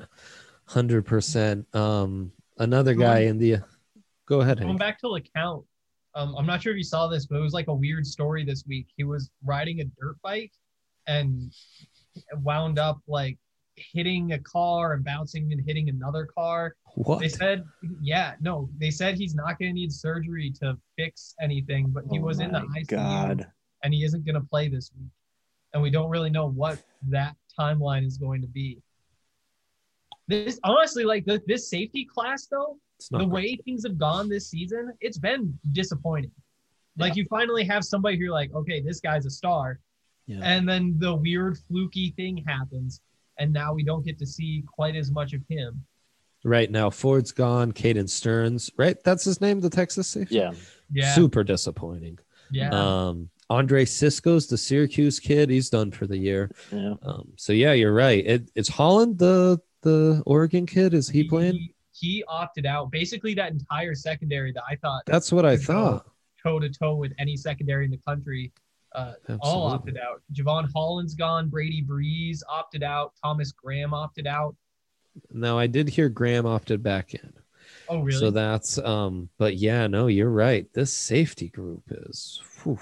100%. Another guy in the – go ahead, Going back to LeCounte, I'm not sure if you saw this, but it was like a weird story this week. He was riding a dirt bike and wound up like hitting a car and bouncing and hitting another car. What? They said he's not going to need surgery to fix anything, but he was in the ICU and he isn't going to play this week. And we don't really know what that timeline is going to be. This honestly, like this safety class though, the way things have gone this season, it's been disappointing. Like you finally have somebody who you're like, okay, this guy's a star. Yeah. And then the weird fluky thing happens. And now we don't get to see quite as much of him. Right now, Ford's gone. Caden Stearns, right? That's his name, the Texas safety? Yeah. Super disappointing. Yeah. Andre Cisco's the Syracuse kid. He's done for the year. Yeah. So, yeah, you're right. It's Holland, the Oregon kid. Is he playing? He opted out. Basically, that entire secondary that I thought. That's what I thought. Toe-to-toe with any secondary in the country. All opted out. Javon Holland's gone. Brady Breeze opted out. Thomas Graham opted out. No, I did hear Graham opted back in. Oh, really? So that's but yeah, no, you're right. This safety group is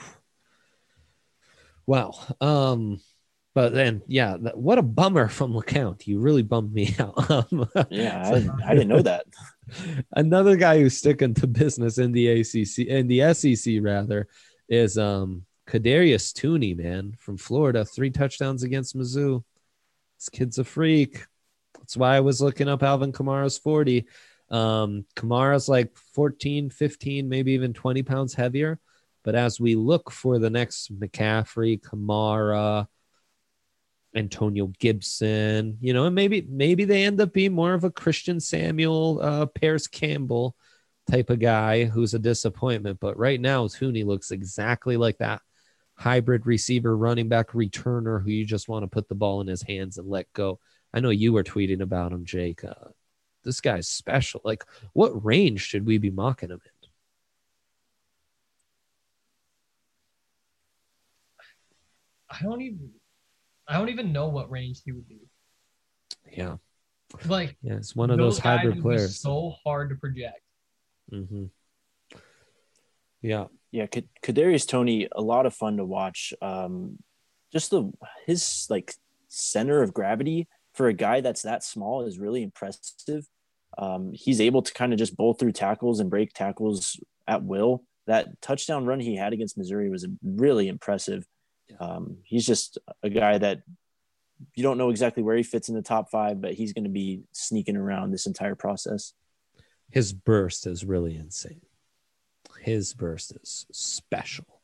wow. But then what a bummer from LeCounte. You really bummed me out. Yeah, I didn't know that. Another guy who's sticking to business in the SEC rather is Kadarius Toney, man, from Florida. 3 touchdowns against Mizzou. This kid's a freak. That's why I was looking up Alvin Kamara's 40. Kamara's like 14, 15, maybe even 20 pounds heavier. But as we look for the next McCaffrey, Kamara, Antonio Gibson, and maybe they end up being more of a Christian Samuel, Paris Campbell type of guy who's a disappointment. But right now, Toney looks exactly like that hybrid receiver, running back, returner who you just want to put the ball in his hands and let go. I know you were tweeting about him, Jake. This guy's special. Like, what range should we be mocking him in? I don't even know what range he would be. Yeah. Like, yeah, it's one of those hybrid players. So hard to project. Mm-hmm. Yeah. Yeah. Kadarius Toney, a lot of fun to watch. Just his like center of gravity for a guy that's that small is really impressive. He's able to kind of just bowl through tackles and break tackles at will. That touchdown run he had against Missouri was really impressive. He's just a guy that you don't know exactly where he fits in the top 5, but he's going to be sneaking around this entire process. His burst is really insane. His burst is special.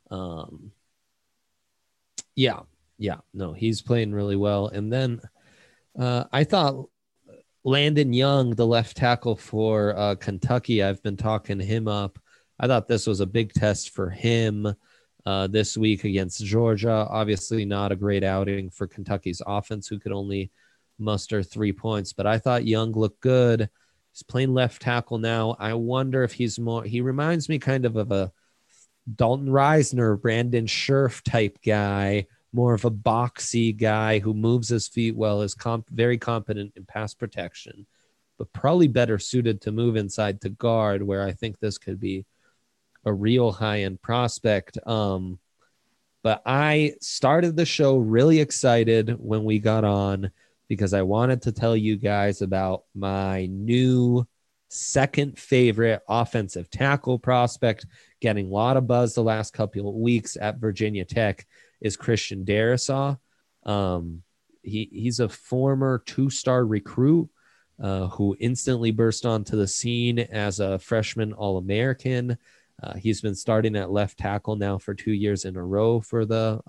No, he's playing really well. And then I thought Landon Young, the left tackle for Kentucky, I've been talking him up. I thought this was a big test for him this week against Georgia. Obviously not a great outing for Kentucky's offense, who could only muster 3 points, but I thought Young looked good. He's playing left tackle now. I wonder if he reminds me kind of a Dalton Reisner, Brandon Scherf type guy, more of a boxy guy who moves his feet well, is very competent in pass protection, but probably better suited to move inside to guard, where I think this could be a real high-end prospect. But I started the show really excited when we got on because I wanted to tell you guys about my new second favorite offensive tackle prospect, getting a lot of buzz the last couple of weeks at Virginia Tech, is Christian Darrisaw. He's a former 2-star recruit who instantly burst onto the scene as a freshman All-American. He's been starting at left tackle now for 2 years in a row for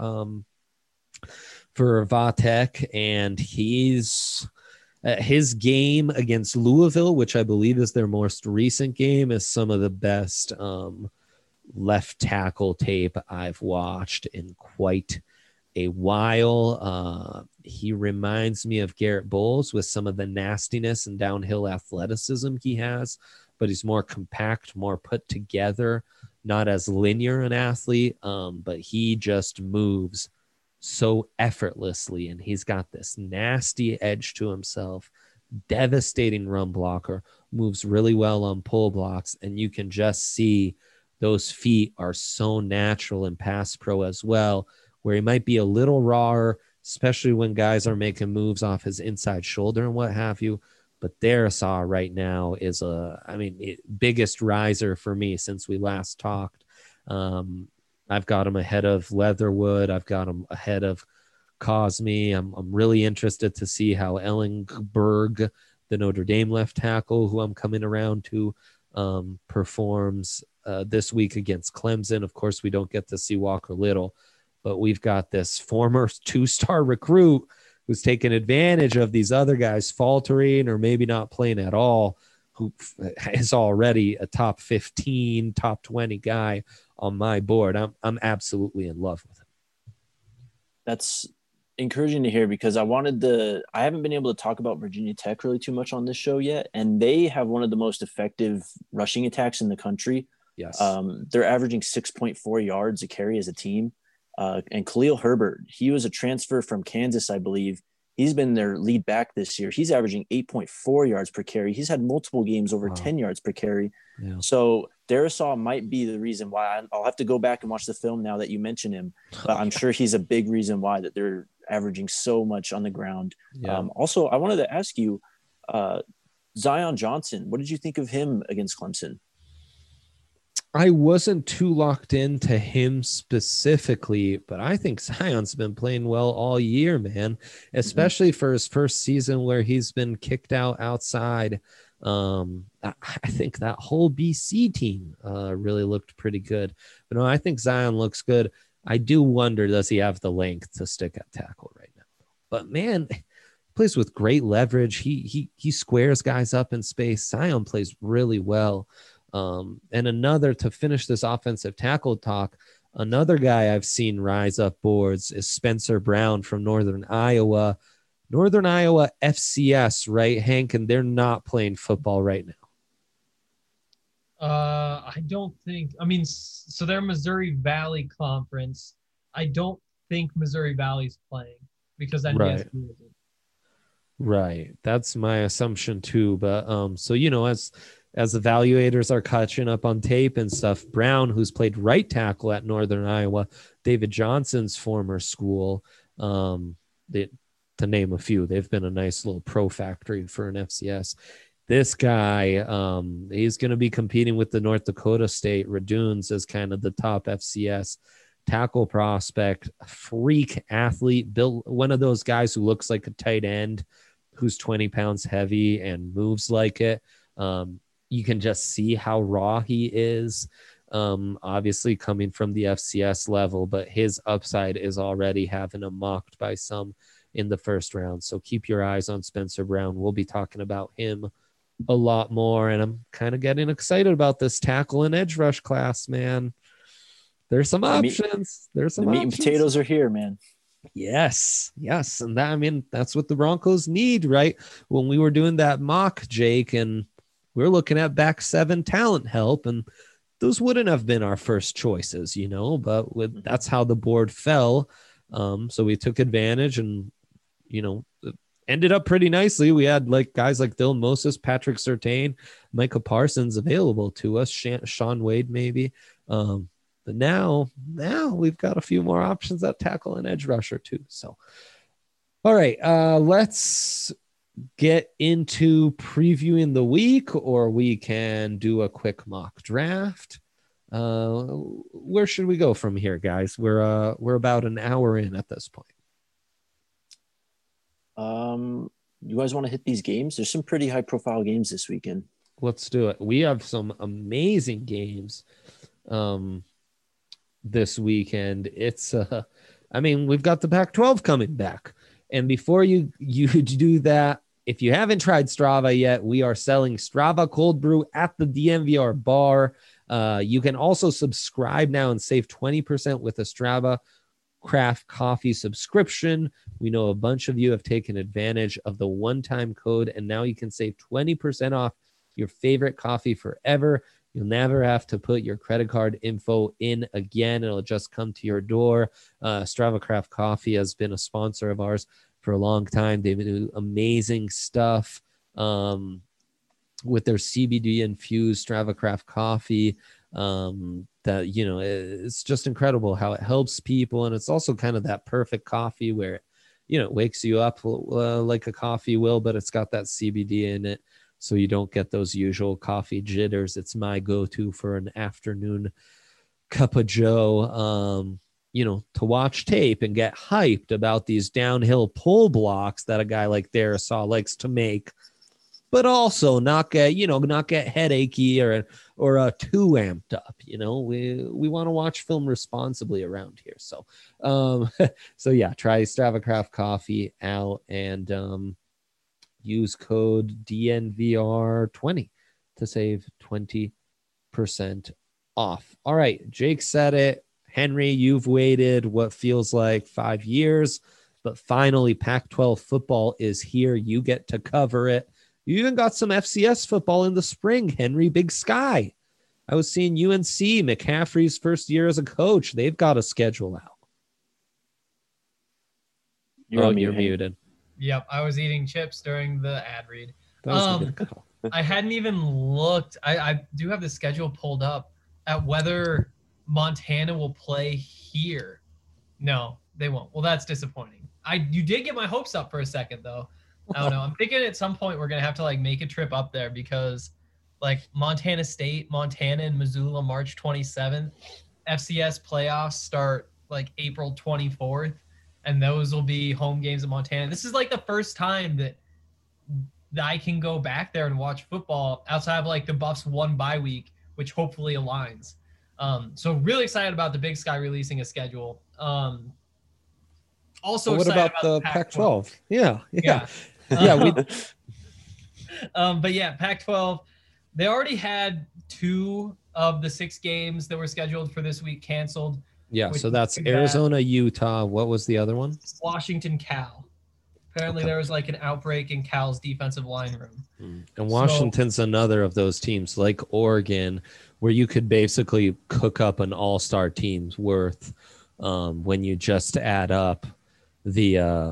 Vatech, and his game against Louisville, which I believe is their most recent game, is some of the best left tackle tape I've watched in quite a while. He reminds me of Garrett Bowles with some of the nastiness and downhill athleticism he has, but he's more compact, more put together, not as linear an athlete, but he just moves so effortlessly, and he's got this nasty edge to himself, devastating run blocker, moves really well on pull blocks, and you can just see those feet are so natural in pass pro as well, where he might be a little rawer, especially when guys are making moves off his inside shoulder and what have you. But Darrisaw right now is biggest riser for me since we last talked. I've got him ahead of Leatherwood. I've got him ahead of Cosme. I'm really interested to see how Ellenberg, the Notre Dame left tackle, who I'm coming around to, performs this week against Clemson. Of course, we don't get to see Walker Little, but we've got this former 2-star recruit who's taking advantage of these other guys faltering or maybe not playing at all, who is already a top 15, top 20 guy on my board. I'm absolutely in love with him. That's encouraging to hear, because I haven't been able to talk about Virginia Tech really too much on this show yet. And they have one of the most effective rushing attacks in the country. Yes. They're averaging 6.4 yards a carry as a team. And Khalil Herbert, he was a transfer from Kansas, I believe. He's been their lead back this year. He's averaging 8.4 yards per carry. He's had multiple games over 10 yards per carry. Yeah. So Darrisaw might be the reason why. I'll have to go back and watch the film now that you mention him. But I'm sure he's a big reason why that they're averaging so much on the ground. Yeah. Also, I wanted to ask you, Zion Johnson, what did you think of him against Clemson? I wasn't too locked into him specifically, but I think Zion's been playing well all year, man, especially for his first season where he's been kicked out outside. I think that whole BC team really looked pretty good. But no, I think Zion looks good. I do wonder, does he have the length to stick at tackle right now? But man, he plays with great leverage. He squares guys up in space. Zion plays really well. And another, to finish this offensive tackle talk, another guy I've seen rise up boards is Spencer Brown from Northern Iowa. Northern Iowa FCS, right, Hank? And they're not playing football right now. I don't think. I mean, so they're Missouri Valley Conference. I don't think Missouri Valley's playing. because NDSU isn't. Right. That's my assumption too. But so as evaluators are catching up on tape and stuff, Brown, who's played right tackle at Northern Iowa, David Johnson's former school, to name a few, they've been a nice little pro factory for an FCS. This guy, he's going to be competing with the North Dakota State Raduns as kind of the top FCS tackle prospect, freak athlete, built one of those guys who looks like a tight end, who's 20 pounds heavy and moves like it. You can just see how raw he is. Obviously coming from the FCS level, but his upside is already having him mocked by some in the first round. So keep your eyes on Spencer Brown. We'll be talking about him a lot more. And I'm kind of getting excited about this tackle and edge rush class, man. There's some options. There's some meat and potatoes are here, man. Yes. And that's what the Broncos need, right? When we were doing that mock, Jake, and we're looking at back 7 talent help, and those wouldn't have been our first choices, but that's how the board fell. So we took advantage and, ended up pretty nicely. We had guys like Dylan Moses, Patrick Surtain, Micah Parsons available to us, Sean Wade maybe. But now we've got a few more options at tackle and edge rusher too. So, all right, let's get into previewing the week, or we can do a quick mock draft. Where should we go from here, guys? We're about an hour in at this point. You guys want to hit these games? There's some pretty high profile games this weekend. Let's do it. We have some amazing games this weekend. It's we've got the Pac-12 coming back. And before you do that, if you haven't tried Strava yet, we are selling Strava cold brew at the DNVR bar. You can also subscribe now and save 20% with a Strava Craft Coffee subscription. We know a bunch of you have taken advantage of the one-time code, and now you can save 20% off your favorite coffee forever. You'll never have to put your credit card info in again. It'll just come to your door. Strava Craft Coffee has been a sponsor of ours for a long time. They do amazing stuff with their CBD infused Strava Craft Coffee. That it's just incredible how it helps people, and it's also kind of that perfect coffee where it wakes you up like a coffee will, but it's got that CBD in it, so you don't get those usual coffee jitters. It's my go-to for an afternoon cup of joe, to watch tape and get hyped about these downhill pull blocks that a guy like Darrisaw likes to make, but also not get headachy or too amped up. We want to watch film responsibly around here. So, try Strava Craft Coffee out and use code DNVR20 to save 20% off. All right, Jake said it. Henry, you've waited what feels like 5 years, but finally Pac-12 football is here. You get to cover it. You even got some FCS football in the spring, Henry. Big Sky. I was seeing UNC, McCaffrey's first year as a coach. They've got a schedule out. You're muted. Yep, I was eating chips during the ad read. I hadn't even looked. I do have the schedule pulled up at whether Montana will play here. No, they won't. Well, that's disappointing. You did get my hopes up for a second, though. I don't know. I'm thinking at some point we're going to have to make a trip up there because Montana State, Montana and Missoula, March 27th. FCS playoffs start April 24th, and those will be home games in Montana. This is the first time that I can go back there and watch football outside of the Buffs one bye week, which hopefully aligns. So really excited about the Big Sky releasing a schedule. Also, what about the Pac-12? Yeah. But yeah, Pac-12, they already had 2 of the 6 games that were scheduled for this week canceled. Yeah, so that's Arizona, Utah. What was the other one? Washington, Cal. Apparently there was an outbreak in Cal's defensive line room. And Washington's another of those teams like Oregon where you could basically cook up an all-star team's worth when you just add up the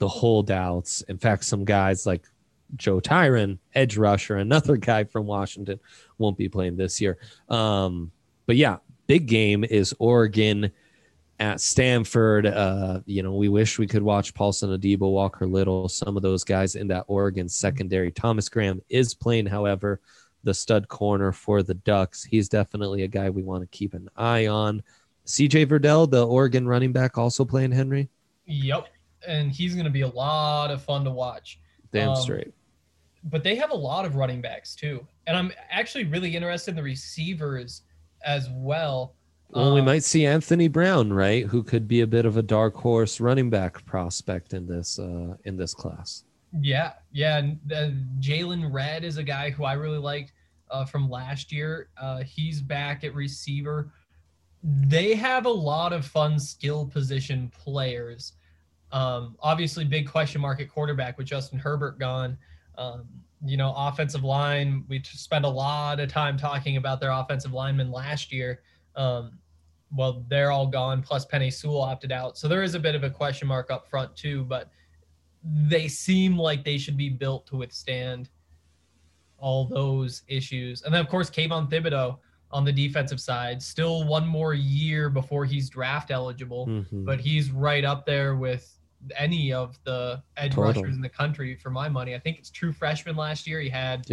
the holdouts. In fact, some guys like Joe Tyron, edge rusher, another guy from Washington, won't be playing this year. But yeah, big game is Oregon at Stanford. We wish we could watch Paulson Adebo, Walker Little, some of those guys in that Oregon secondary. Thomas Graham is playing, however, the stud corner for the Ducks. He's definitely a guy we want to keep an eye on. CJ Verdell, the Oregon running back, also playing, Henry? Yep. And he's going to be a lot of fun to watch. Damn straight. But they have a lot of running backs too. And I'm actually really interested in the receivers as well. Well, we might see Anthony Brown, right? Who could be a bit of a dark horse running back prospect in this class. Yeah. And Jalen Redd is a guy who I really liked from last year. He's back at receiver. They have a lot of fun skill position players. Obviously, big question mark at quarterback with Justin Herbert gone. Offensive line, we spent a lot of time talking about their offensive linemen last year. Well, they're all gone, plus Penei Sewell opted out. So there is a bit of a question mark up front too, but they seem like they should be built to withstand all those issues. And then, of course, Kayvon Thibodeau on the defensive side, still one more year before he's draft eligible, but he's right up there with any of the edge rushers in the country for my money. I think it's true freshman last year. He had,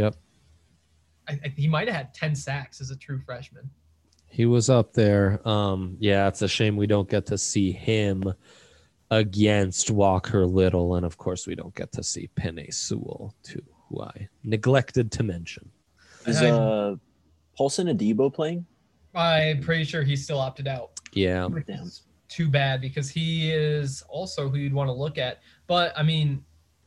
he might have had 10 sacks as a true freshman. He was up there. It's a shame we don't get to see him against Walker Little. And of course we don't get to see Penei Sewell too, who I neglected to mention. Is Paulson Adebo playing? I'm pretty sure he's still opted out. Yeah. Damn. Too bad, because he is also who you'd want to look at. But I mean,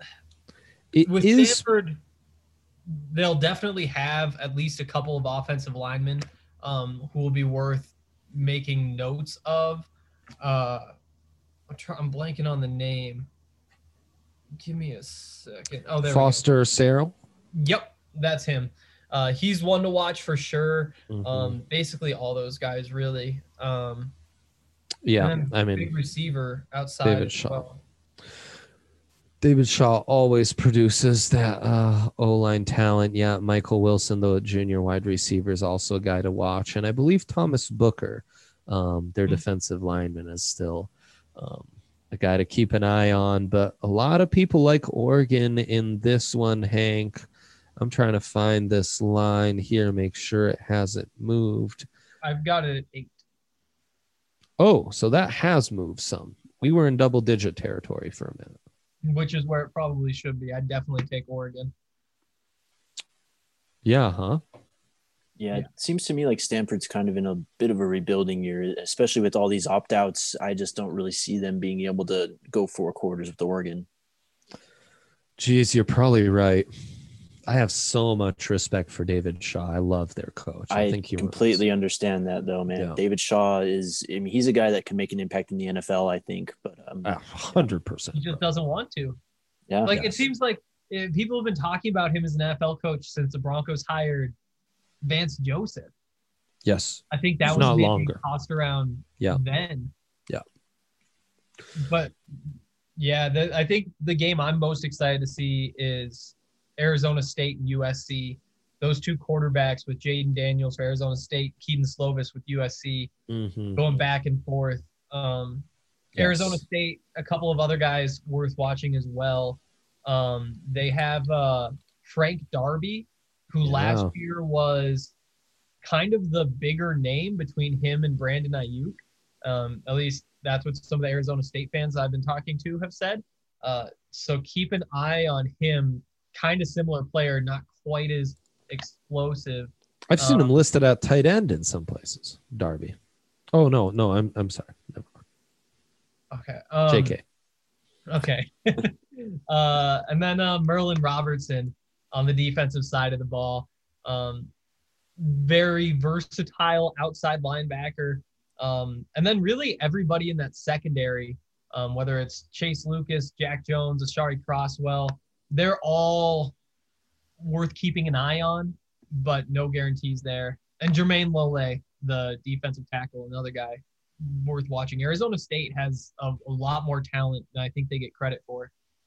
with Stanford, they'll definitely have at least a couple of offensive linemen who will be worth making notes of. I'm blanking on the name. Give me a second. Oh, there Foster Sarrell. Yep, that's him. He's one to watch for sure. Basically all those guys really. Big receiver outside. David Shaw. David Shaw always produces that O-line talent. Yeah, Michael Wilson, the junior wide receiver, is also a guy to watch. And I believe Thomas Booker, their defensive lineman, is still a guy to keep an eye on. But a lot of people like Oregon in this one, Hank. I'm trying to find this line here, make sure it hasn't moved. I've got it at 8. Oh, so that has moved some. We were in double-digit territory for a minute. Which is where it probably should be. I'd definitely take Oregon. Yeah, huh? Yeah, it seems to me like Stanford's kind of in a bit of a rebuilding year, especially with all these opt-outs. I just don't really see them being able to go 4 quarters with Oregon. Geez, you're probably right. I have so much respect for David Shaw. I love their coach. I think he completely understand that, though, man. Yeah. David Shaw he's a guy that can make an impact in the NFL, I think. But 100%. He just doesn't want to. Yeah. It seems like people have been talking about him as an NFL coach since the Broncos hired Vance Joseph. Yes. I think that was not maybe longer. Tossed around then. Yeah. But, yeah, I think the game I'm most excited to see is Arizona State and USC. Those two quarterbacks with Jaden Daniels for Arizona State, Keaton Slovis with USC, going back and forth. Arizona State, a couple of other guys worth watching as well. They have Frank Darby, who last year was kind of the bigger name between him and Brandon Ayuk. At least that's what some of the Arizona State fans I've been talking to have said. So keep an eye on him. Kind of similar player, not quite as explosive. I've seen him listed at tight end in some places. Darby. Oh no, I'm sorry. Never mind. Okay. JK. Okay. And then Merlin Robertson on the defensive side of the ball. Very versatile outside linebacker. And then really everybody in that secondary, whether it's Chase Lucas, Jack Jones, Ashari Crosswell, they're all worth keeping an eye on, but no guarantees there. And Jermaine Lole, the defensive tackle, another guy worth watching. Arizona State has a lot more talent than I think they get credit for.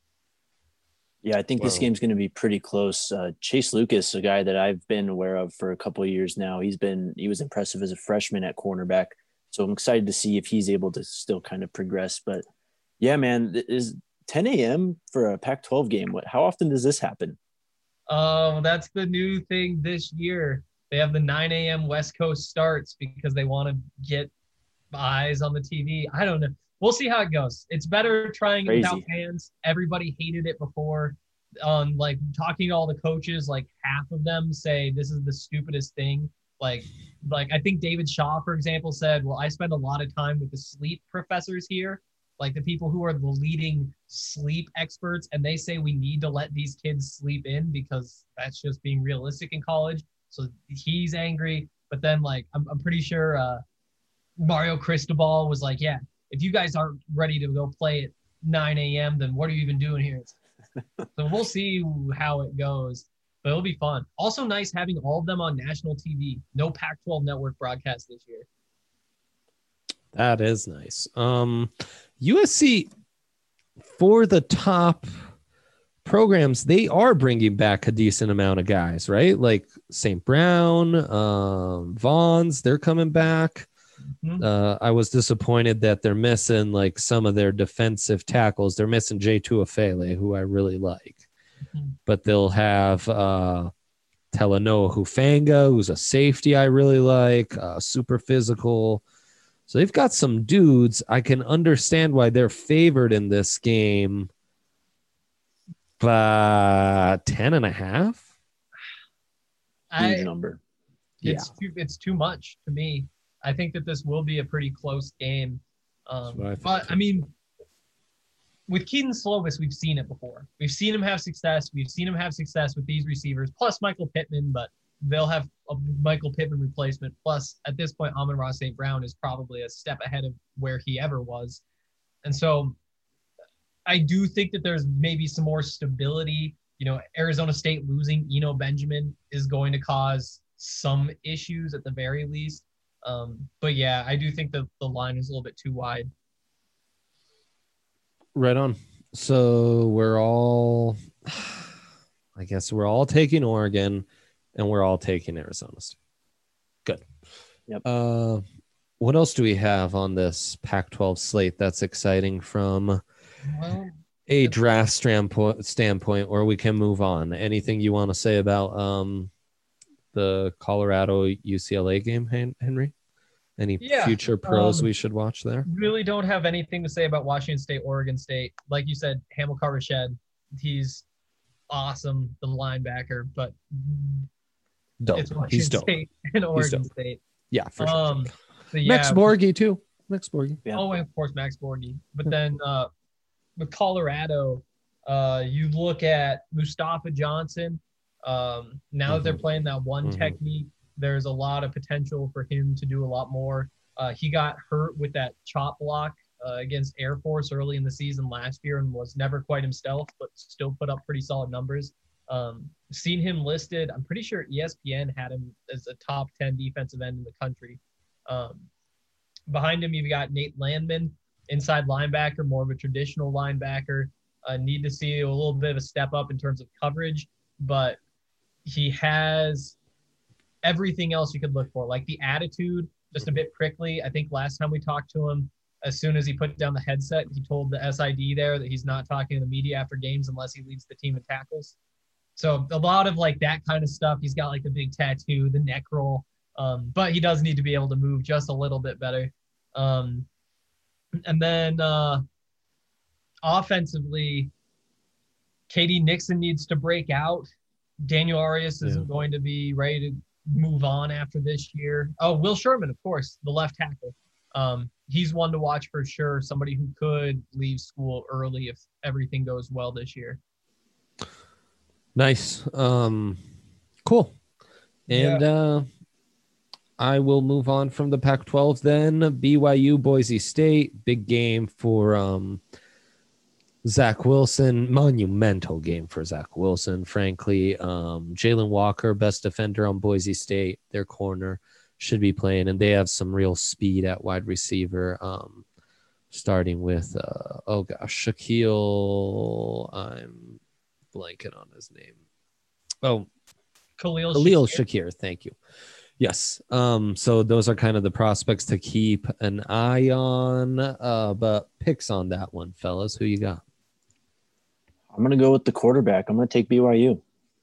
Yeah, I think this game's going to be pretty close. Chase Lucas, a guy that I've been aware of for a couple of years now, he was impressive as a freshman at cornerback. So I'm excited to see if he's able to still kind of progress. But yeah, man, is 10 a.m. for a Pac-12 game. How often does this happen? That's the new thing this year. They have the 9 a.m. West Coast starts because they want to get eyes on the TV. I don't know. We'll see how it goes. It's better trying it without fans. Everybody hated it before. Like talking to all the coaches, like half of them say this is the stupidest thing. Like I think David Shaw, for example, said, well, I spend a lot of time with the sleep professors here, like the people who are the leading sleep experts, and they say we need to let these kids sleep in because that's just being realistic in college. So he's angry. But then like I'm pretty sure Mario Cristobal was like, yeah, if you guys aren't ready to go play at 9 a.m., then what are you even doing here? So we'll see how it goes, but it'll be fun. Also nice having all of them on national TV. No Pac-12 network broadcast this year. That is nice. USC, for the top programs, they are bringing back a decent amount of guys, right? Like St. Brown, Vaughns, they're coming back. I was disappointed that they're missing like some of their defensive tackles. They're missing J2 Afele, who I really like, but they'll have Telanoa Hufanga, who's a safety I really like, super physical. So they've got some dudes. I can understand why they're favored in this game, but 10.5. Huge number. It's too much to me. I think that this will be a pretty close game. But, I mean, with Keaton Slovis, we've seen it before. We've seen him have success. We've seen him have success with these receivers, plus Michael Pittman, but they'll have a Michael Pittman replacement. Plus, at this point, Amon-Ra St. Brown is probably a step ahead of where he ever was. And so I do think that there's maybe some more stability. You know, Arizona State losing Eno Benjamin is going to cause some issues at the very least. But yeah, I do think that the line is a little bit too wide. Right on. So I guess we're all taking Oregon and we're all taking Arizona State. Good. Yep. What else do we have on this Pac-12 slate that's exciting from a draft standpoint, or we can move on? Anything you want to say about the Colorado UCLA game, Henry? Any future pros we should watch there? Really don't have anything to say about Washington State, Oregon State. Like you said, Hamilcar Rashed, he's awesome, the linebacker, but it's Washington State and Oregon State. Yeah, for sure. So yeah, Max Borghi too. Max Borghi. Yeah. Oh, and of course Max Borghi. But then with Colorado, you look at Mustafa Johnson. Now that they're playing that one technique, there's a lot of potential for him to do a lot more. He got hurt with that chop block against Air Force early in the season last year and was never quite himself, but still put up pretty solid numbers. Seen him listed. I'm pretty sure ESPN had him as a top 10 defensive end in the country. Behind him, you've got Nate Landman, inside linebacker, more of a traditional linebacker. Need to see a little bit of a step up in terms of coverage, but he has everything else you could look for, like the attitude, just a bit prickly. I think last time we talked to him, as soon as he put down the headset, he told the SID there that he's not talking to the media after games unless he leads the team in tackles. So a lot of like that kind of stuff. He's got like the big tattoo, the neck roll, but he does need to be able to move just a little bit better. And then offensively, KD Nixon needs to break out. Daniel Arias isn't going to be ready to move on after this year. Oh, Will Sherman, of course, the left tackle. He's one to watch for sure. Somebody who could leave school early if everything goes well this year. Nice. Cool. And I will move on from the Pac-12 then. BYU, Boise State, big game for Zach Wilson, monumental game for Zach Wilson, frankly. Jalen Walker, best defender on Boise State, their corner, should be playing, and they have some real speed at wide receiver, starting with, Shaquille, I'm blanking on his name. Oh, Khalil Shakir. Thank you. Yes. So those are kind of the prospects to keep an eye on. But picks on that one, fellas. Who you got? I'm going to go with the quarterback. I'm going to take BYU.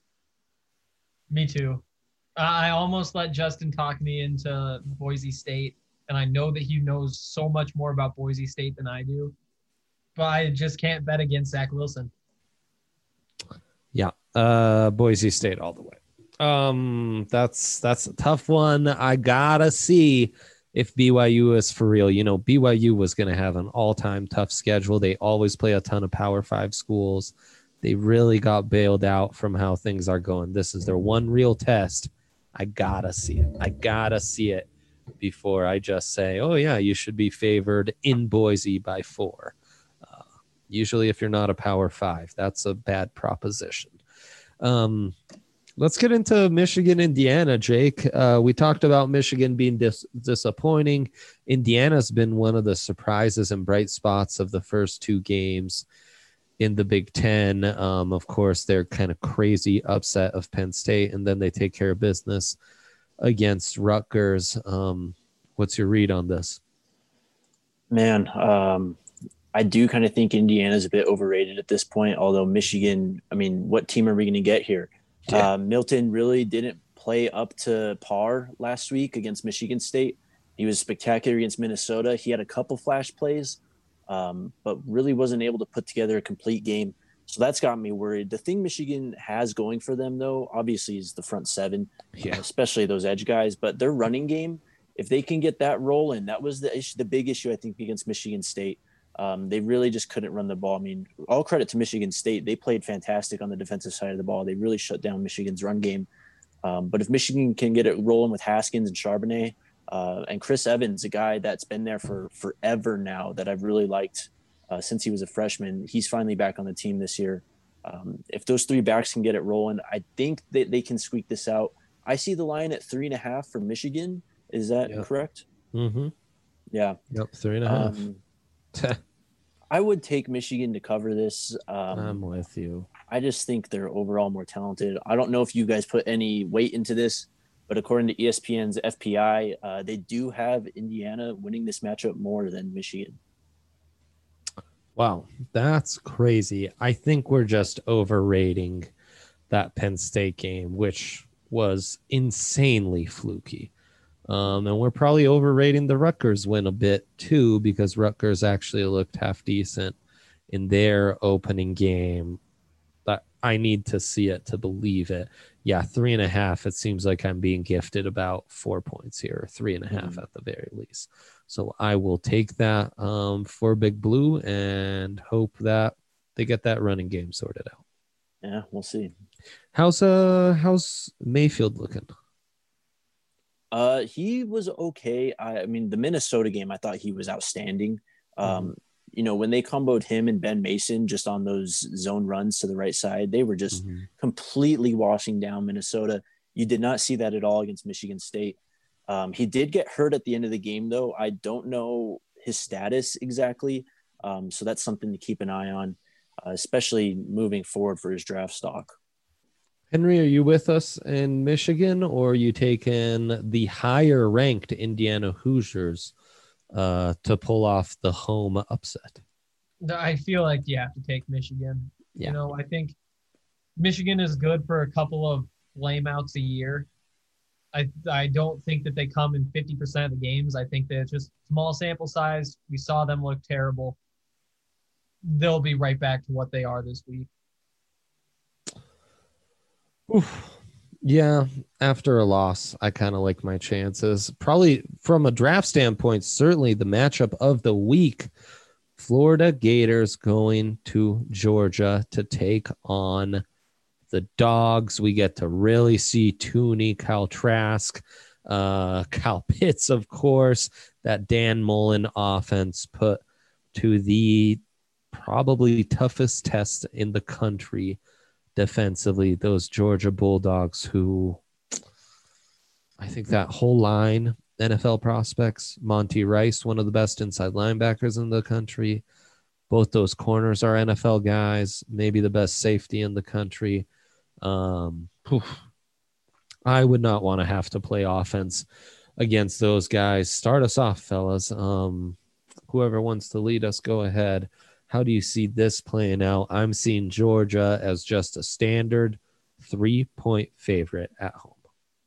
Me too. I almost let Justin talk me into Boise State, and I know that he knows so much more about Boise State than I do, but I just can't bet against Zach Wilson. Yeah. Boise State all the way. That's a tough one. I gotta see if BYU is for real. You know, BYU was going to have an all-time tough schedule. They always play a ton of Power 5 schools. They really got bailed out from how things are going. This is their one real test. I gotta see it before I just say, oh yeah, you should be favored in Boise by 4. Usually if you're not a Power 5, that's a bad proposition. Let's get into Michigan, Indiana, Jake. We talked about Michigan being disappointing. Indiana's been one of the surprises and bright spots of the first 2 games in the Big Ten. Of course, their kind of crazy upset of Penn State, and then they take care of business against Rutgers. What's your read on this? Man, I do kind of think Indiana's a bit overrated at this point, although Michigan, I mean, what team are we going to get here? Yeah. Milton really didn't play up to par last week against Michigan State. He was spectacular against Minnesota. He had a couple flash plays, but really wasn't able to put together a complete game. So that's got me worried. The thing Michigan has going for them, though, obviously is the front 7, especially those edge guys. But their running game, if they can get that rolling, that was the big issue, I think, against Michigan State. They really just couldn't run the ball. I mean, all credit to Michigan State. They played fantastic on the defensive side of the ball. They really shut down Michigan's run game. But if Michigan can get it rolling with Haskins and Charbonnet and Chris Evans, a guy that's been there for forever now that I've really liked since he was a freshman, he's finally back on the team this year. If those 3 backs can get it rolling, I think that they can squeak this out. I see the line at 3.5 for Michigan. Is that correct? Mm-hmm. Yeah. Yep, 3.5. I would take Michigan to cover this. I'm with you. I just think they're overall more talented. I don't know if you guys put any weight into this, but according to ESPN's FPI, they do have Indiana winning this matchup more than Michigan. Wow, that's crazy. I think we're just overrating that Penn State game, which was insanely fluky. And we're probably overrating the Rutgers win a bit too, because Rutgers actually looked half decent in their opening game. But I need to see it to believe it. Yeah, 3.5. It seems like I'm being gifted about 4 points here, 3.5 at the very least. So I will take that for Big Blue and hope that they get that running game sorted out. Yeah, we'll see. How's Mayfield looking? He was okay. I mean, the Minnesota game, I thought he was outstanding. You know, when they comboed him and Ben Mason just on those zone runs to the right side, they were just completely washing down Minnesota. You did not see that at all against Michigan State. He did get hurt at the end of the game, though. I don't know his status exactly. So that's something to keep an eye on, especially moving forward for his draft stock. Henry, are you with us in Michigan, or are you taking the higher ranked Indiana Hoosiers to pull off the home upset? I feel like you have to take Michigan. Yeah. You know, I think Michigan is good for a couple of flameouts a year. I don't think that they come in 50% of the games. I think that it's just small sample size. We saw them look terrible. They'll be right back to what they are this week. Oof. Yeah, after a loss, I kind of like my chances. Probably from a draft standpoint, certainly the matchup of the week, Florida Gators going to Georgia to take on the Dogs. We get to really see Tooney, Kyle Trask, Kyle Pitts, of course, that Dan Mullen offense put to the probably toughest test in the country defensively. Those Georgia Bulldogs, who I think that whole line, NFL prospects, Monty Rice, one of the best inside linebackers in the country, Both those corners are NFL guys, maybe the best safety in the country. I would not want to have to play offense against those guys. Start us off, fellas. Whoever wants to lead us, go ahead. How do you see this playing out? I'm seeing Georgia as just a standard 3-point favorite at home.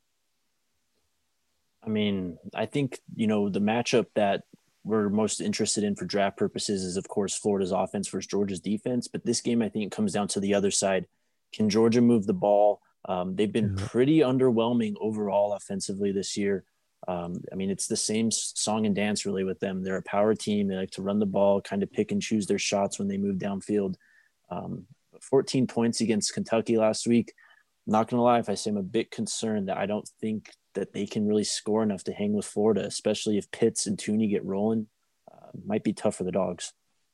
I mean, I think, the matchup that we're most interested in for draft purposes is, of course, Florida's offense versus Georgia's defense. But this game, I think, comes down to the other side. Can Georgia move the ball? They've been pretty underwhelming overall offensively this year. I mean, it's the same song and dance really with them. They're a power team. They like to run the ball, kind of pick and choose their shots when they move downfield. 14 points against Kentucky last week. I'm not going to lie, if I say I'm a bit concerned that I don't think that they can really score enough to hang with Florida, especially if Pitts and Tooney get rolling. Might be tough for the Dogs.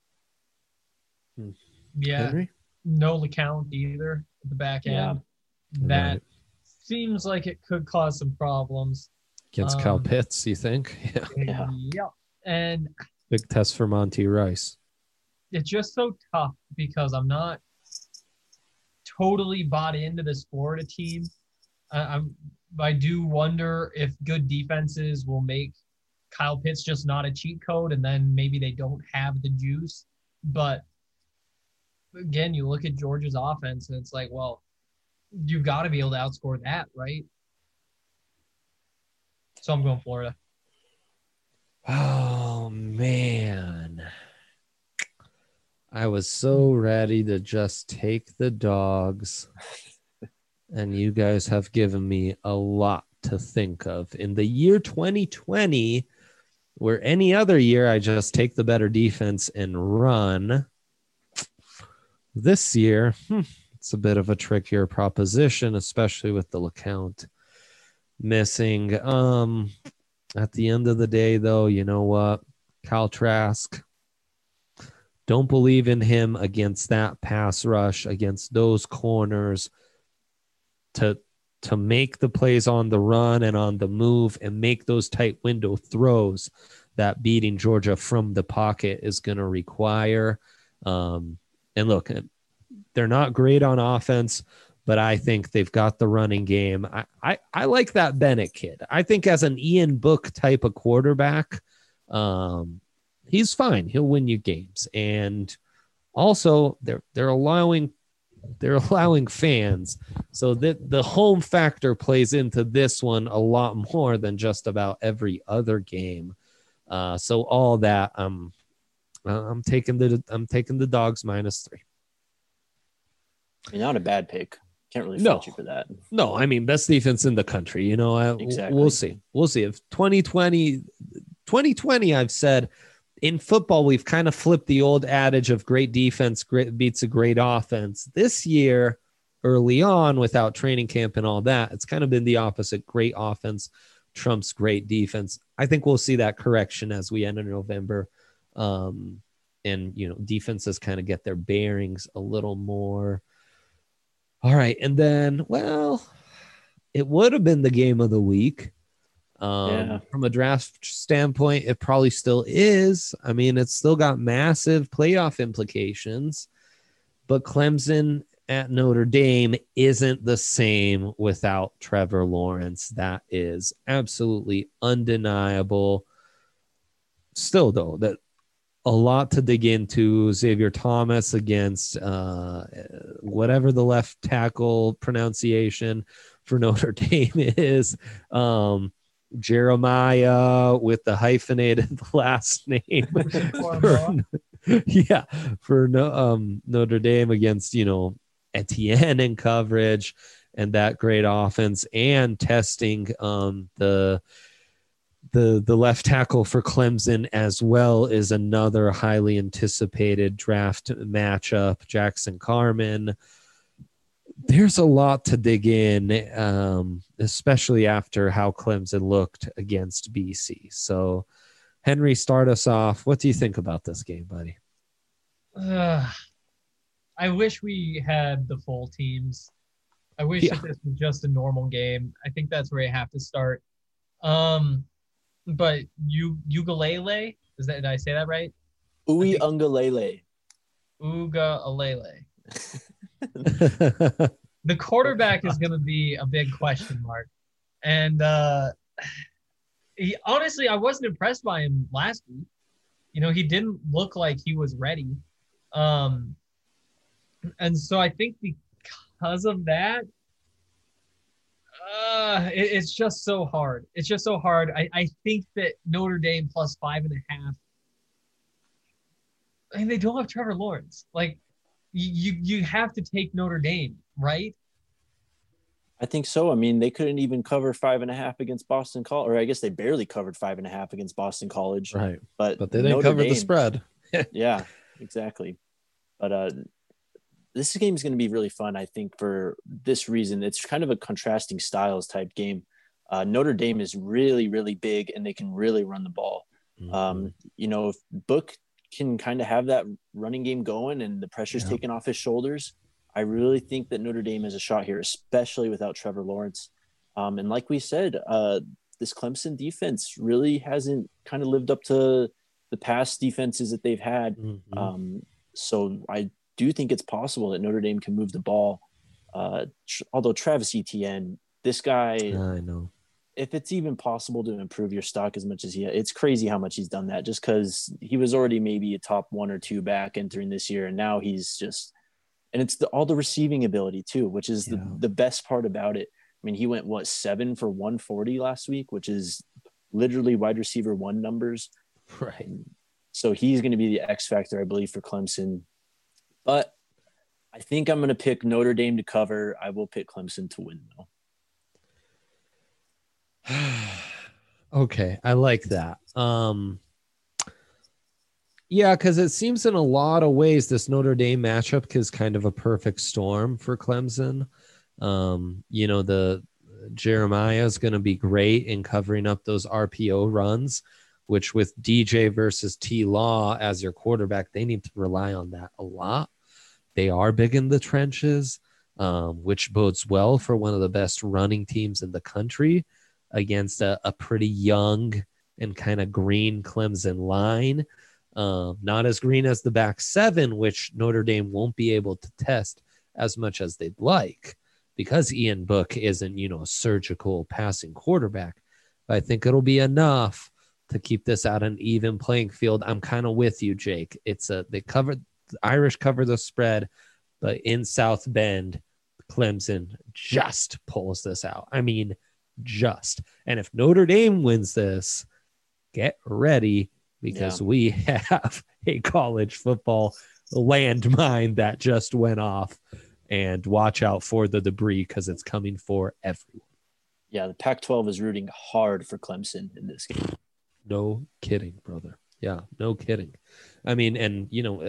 Yeah, Henry? No LeCount either at the back end. That seems like it could cause some problems. Against Kyle Pitts, you think? Yeah. And big test for Monty Rice. It's just so tough because I'm not totally bought into this Florida team. I do wonder if good defenses will make Kyle Pitts just not a cheat code, and then maybe they don't have the juice. But again, you look at Georgia's offense, and it's like, well, you've got to be able to outscore that, right? So I'm going Florida. Oh, man. I was so ready to just take the Dogs. And you guys have given me a lot to think of. In the year 2020, where any other year I just take the better defense and run, this year, it's a bit of a trickier proposition, especially with the LeCount missing. At the end of the day, though, you know what? Kyle Trask, don't believe in him against that pass rush, against those corners. To make the plays on the run and on the move and make those tight window throws that beating Georgia from the pocket is going to require. And look, they're not great on offense, but I think they've got the running game. I like that Bennett kid. I think as an Ian Book type of quarterback, he's fine. He'll win you games. And also they're allowing fans, so that the home factor plays into this one a lot more than just about every other game. So all that, I'm taking the Dogs -3. I mean, not a bad pick. Can't really fault you for that. No, I mean, best defense in the country. Exactly. We'll see. If 2020, I've said. In football, we've kind of flipped the old adage of great defense beats a great offense. This year, early on, without training camp and all that, it's kind of been the opposite. Great offense trumps great defense. I think we'll see that correction as we enter November. And, defenses kind of get their bearings a little more. All right. And then, well, it would have been the game of the week. From a draft standpoint, it probably still is. I mean, it's still got massive playoff implications, but Clemson at Notre Dame isn't the same without Trevor Lawrence. That is absolutely undeniable. Still, though, that a lot to dig into. Xavier Thomas against whatever the left tackle pronunciation for Notre Dame is. Jeremiah with the hyphenated last name for Notre Dame against Etienne in coverage and that great offense, and testing the left tackle for Clemson as well is another highly anticipated draft matchup. Jackson Carman. There's a lot to dig in, especially after how Clemson looked against BC. So, Henry, start us off. What do you think about this game, buddy? I wish we had the full teams. I wish that this was just a normal game. I think that's where you have to start. But Ugalele, did I say that right? Uiagalelei. Uiagalelei. The quarterback is going to be a big question mark. And honestly, I wasn't impressed by him last week. He didn't look like he was ready. And so I think because of that, it's just so hard. It's just so hard. I think that Notre Dame plus 5.5. I mean, they don't have Trevor Lawrence. Like, you have to take Notre Dame, right? I think so. I mean, they couldn't even cover 5.5 against Boston College, or I guess they barely covered 5.5 against Boston College. Right. But they didn't cover the spread. Yeah, exactly. But this game is going to be really fun, I think, for this reason. It's kind of a contrasting styles type game. Notre Dame is really, really big, and they can really run the ball. Mm-hmm. If Book can kind of have that running game going and the pressure's taken off his shoulders, I really think that Notre Dame has a shot here, especially without Trevor Lawrence. And like we said, this Clemson defense really hasn't kind of lived up to the past defenses that they've had. Mm-hmm. So I do think it's possible that Notre Dame can move the ball. Although Travis Etienne, this guy, I know. If it's even possible to improve your stock as much as it's crazy how much he's done that, just because he was already maybe a top 1 or 2 back entering this year. And now he's just, and it's all the receiving ability too, which is the best part about it. I mean, he went 7 for 140 last week, which is literally wide receiver 1 numbers. Right. So he's going to be the X factor, I believe, for Clemson. But I think I'm going to pick Notre Dame to cover. I will pick Clemson to win, though. Okay, I like that. Yeah, because it seems in a lot of ways this Notre Dame matchup is kind of a perfect storm for Clemson. The Jeremiah is going to be great in covering up those RPO runs, which with DJ versus T Law as your quarterback, they need to rely on that a lot. They are big in the trenches, which bodes well for one of the best running teams in the country against a pretty young and kind of green Clemson line. Not as green as the back 7, which Notre Dame won't be able to test as much as they'd like because Ian Book isn't, a surgical passing quarterback. But I think it'll be enough to keep this at an even playing field. I'm kind of with you, Jake. The Irish cover the spread, but in South Bend, Clemson just pulls this out. I mean, just. And if Notre Dame wins this, get ready because we have a college football landmine that just went off, and watch out for the debris because it's coming for everyone. Yeah, the Pac-12 is rooting hard for Clemson in this game. No kidding, brother. Yeah, no kidding. I mean, and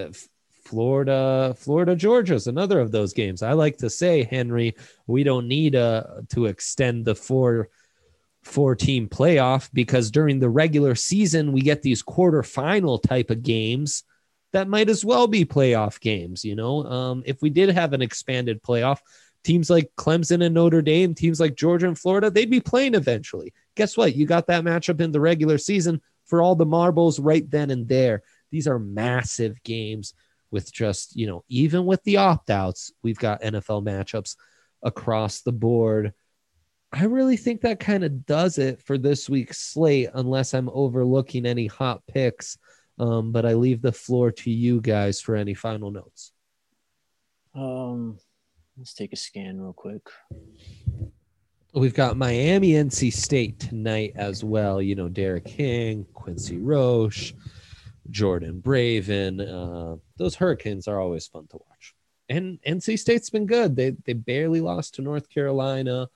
Florida, Georgia is another of those games. I like to say, Henry, we don't need to extend the four-team playoff because during the regular season, we get these quarterfinal type of games that might as well be playoff games. If we did have an expanded playoff, teams like Clemson and Notre Dame, teams like Georgia and Florida, they'd be playing eventually. Guess what? You got that matchup in the regular season for all the marbles right then and there. These are massive games with just, even with the opt-outs, we've got NFL matchups across the board. I really think that kind of does it for this week's slate, unless I'm overlooking any hot picks. But I leave the floor to you guys for any final notes. Let's take a scan real quick. We've got Miami, NC State tonight as well. Derek King, Quincy Roche, Jordan Braven. Those Hurricanes are always fun to watch. And NC State's been good. They barely lost to North Carolina.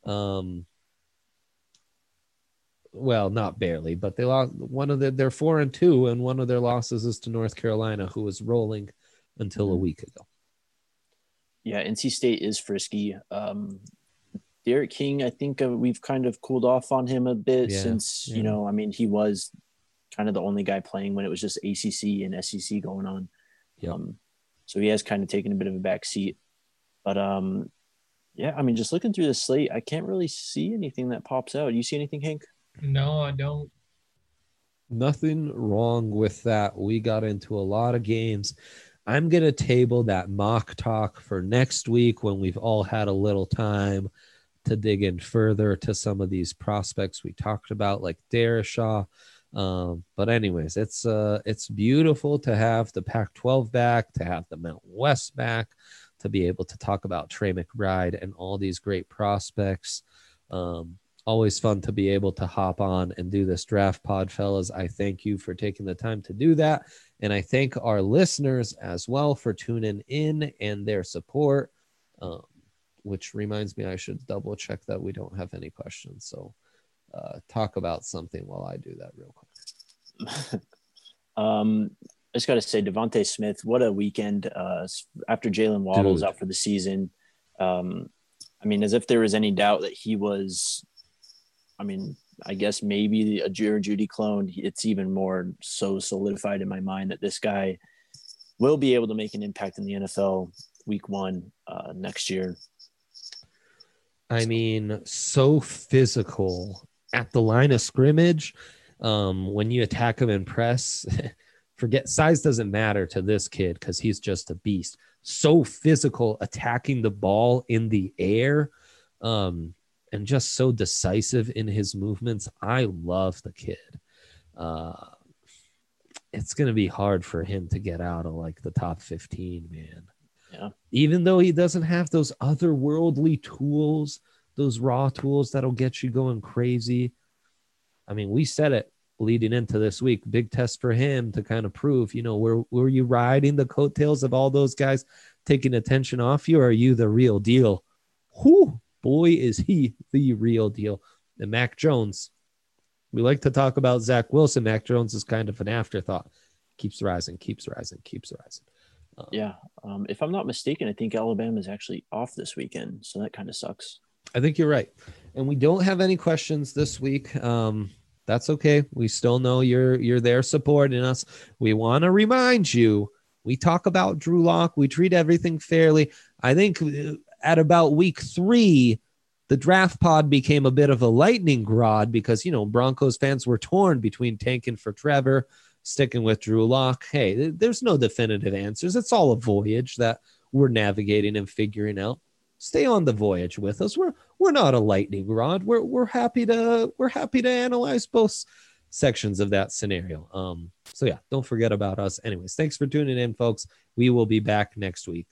Well, not barely, but they lost they're 4-2, and one of their losses is to North Carolina, who was rolling until a week ago. Yeah, NC State is frisky. Derek King, I think we've kind of cooled off on him a bit since, he was kind of the only guy playing when it was just ACC and SEC going on. Yep. So he has kind of taken a bit of a back seat. But, just looking through the slate, I can't really see anything that pops out. You see anything, Hank? No, I don't. Nothing wrong with that. We got into a lot of games. I'm going to table that mock talk for next week when we've all had a little time to dig in further to some of these prospects we talked about, like Darrisaw. But anyways, it's beautiful to have the Pac-12 back, to have the Mountain West back, to be able to talk about Trey McBride and all these great prospects. Always fun to be able to hop on and do this draft pod, fellas. I thank you for taking the time to do that. And I thank our listeners as well for tuning in and their support, which reminds me I should double check that we don't have any questions. So talk about something while I do that real quick. I just got to say, Devontae Smith, what a weekend after Jalen Waddle's out for the season. I mean, as if there was any doubt that he was, I mean, I guess maybe a Jerry Jeudy clone. It's even more so solidified in my mind that this guy will be able to make an impact in the NFL week 1 next year. I mean, so physical at the line of scrimmage. When you attack him in press, forget size doesn't matter to this kid because he's just a beast. So physical, attacking the ball in the air, and just so decisive in his movements. I love the kid. It's going to be hard for him to get out of like the top 15, man. Yeah. Even though he doesn't have those otherworldly tools, those raw tools that'll get you going crazy. I mean, we said it leading into this week, big test for him to kind of prove, you know, were you riding the coattails of all those guys taking attention off you, or are you the real deal? Whew, boy, is he the real deal. And Mac Jones, we like to talk about Zach Wilson. Mac Jones is kind of an afterthought. Keeps rising. Yeah. If I'm not mistaken, I think Alabama is actually off this weekend. So that kind of sucks. I think you're right. And we don't have any questions this week. That's okay. We still know you're there supporting us. We want to remind you, we talk about Drew Lock. We treat everything fairly. I think at about week 3, the draft pod became a bit of a lightning rod because, you know, Broncos fans were torn between tanking for Trevor, sticking with Drew Lock. Hey, there's no definitive answers. It's all a voyage that we're navigating and figuring out. Stay on the voyage with us. We're not a lightning rod. We're happy to analyze both sections of that scenario. So yeah, don't forget about us. Anyways, thanks for tuning in, folks. We will be back next week.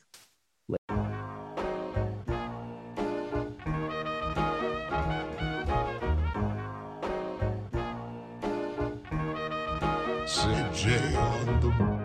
CJ on the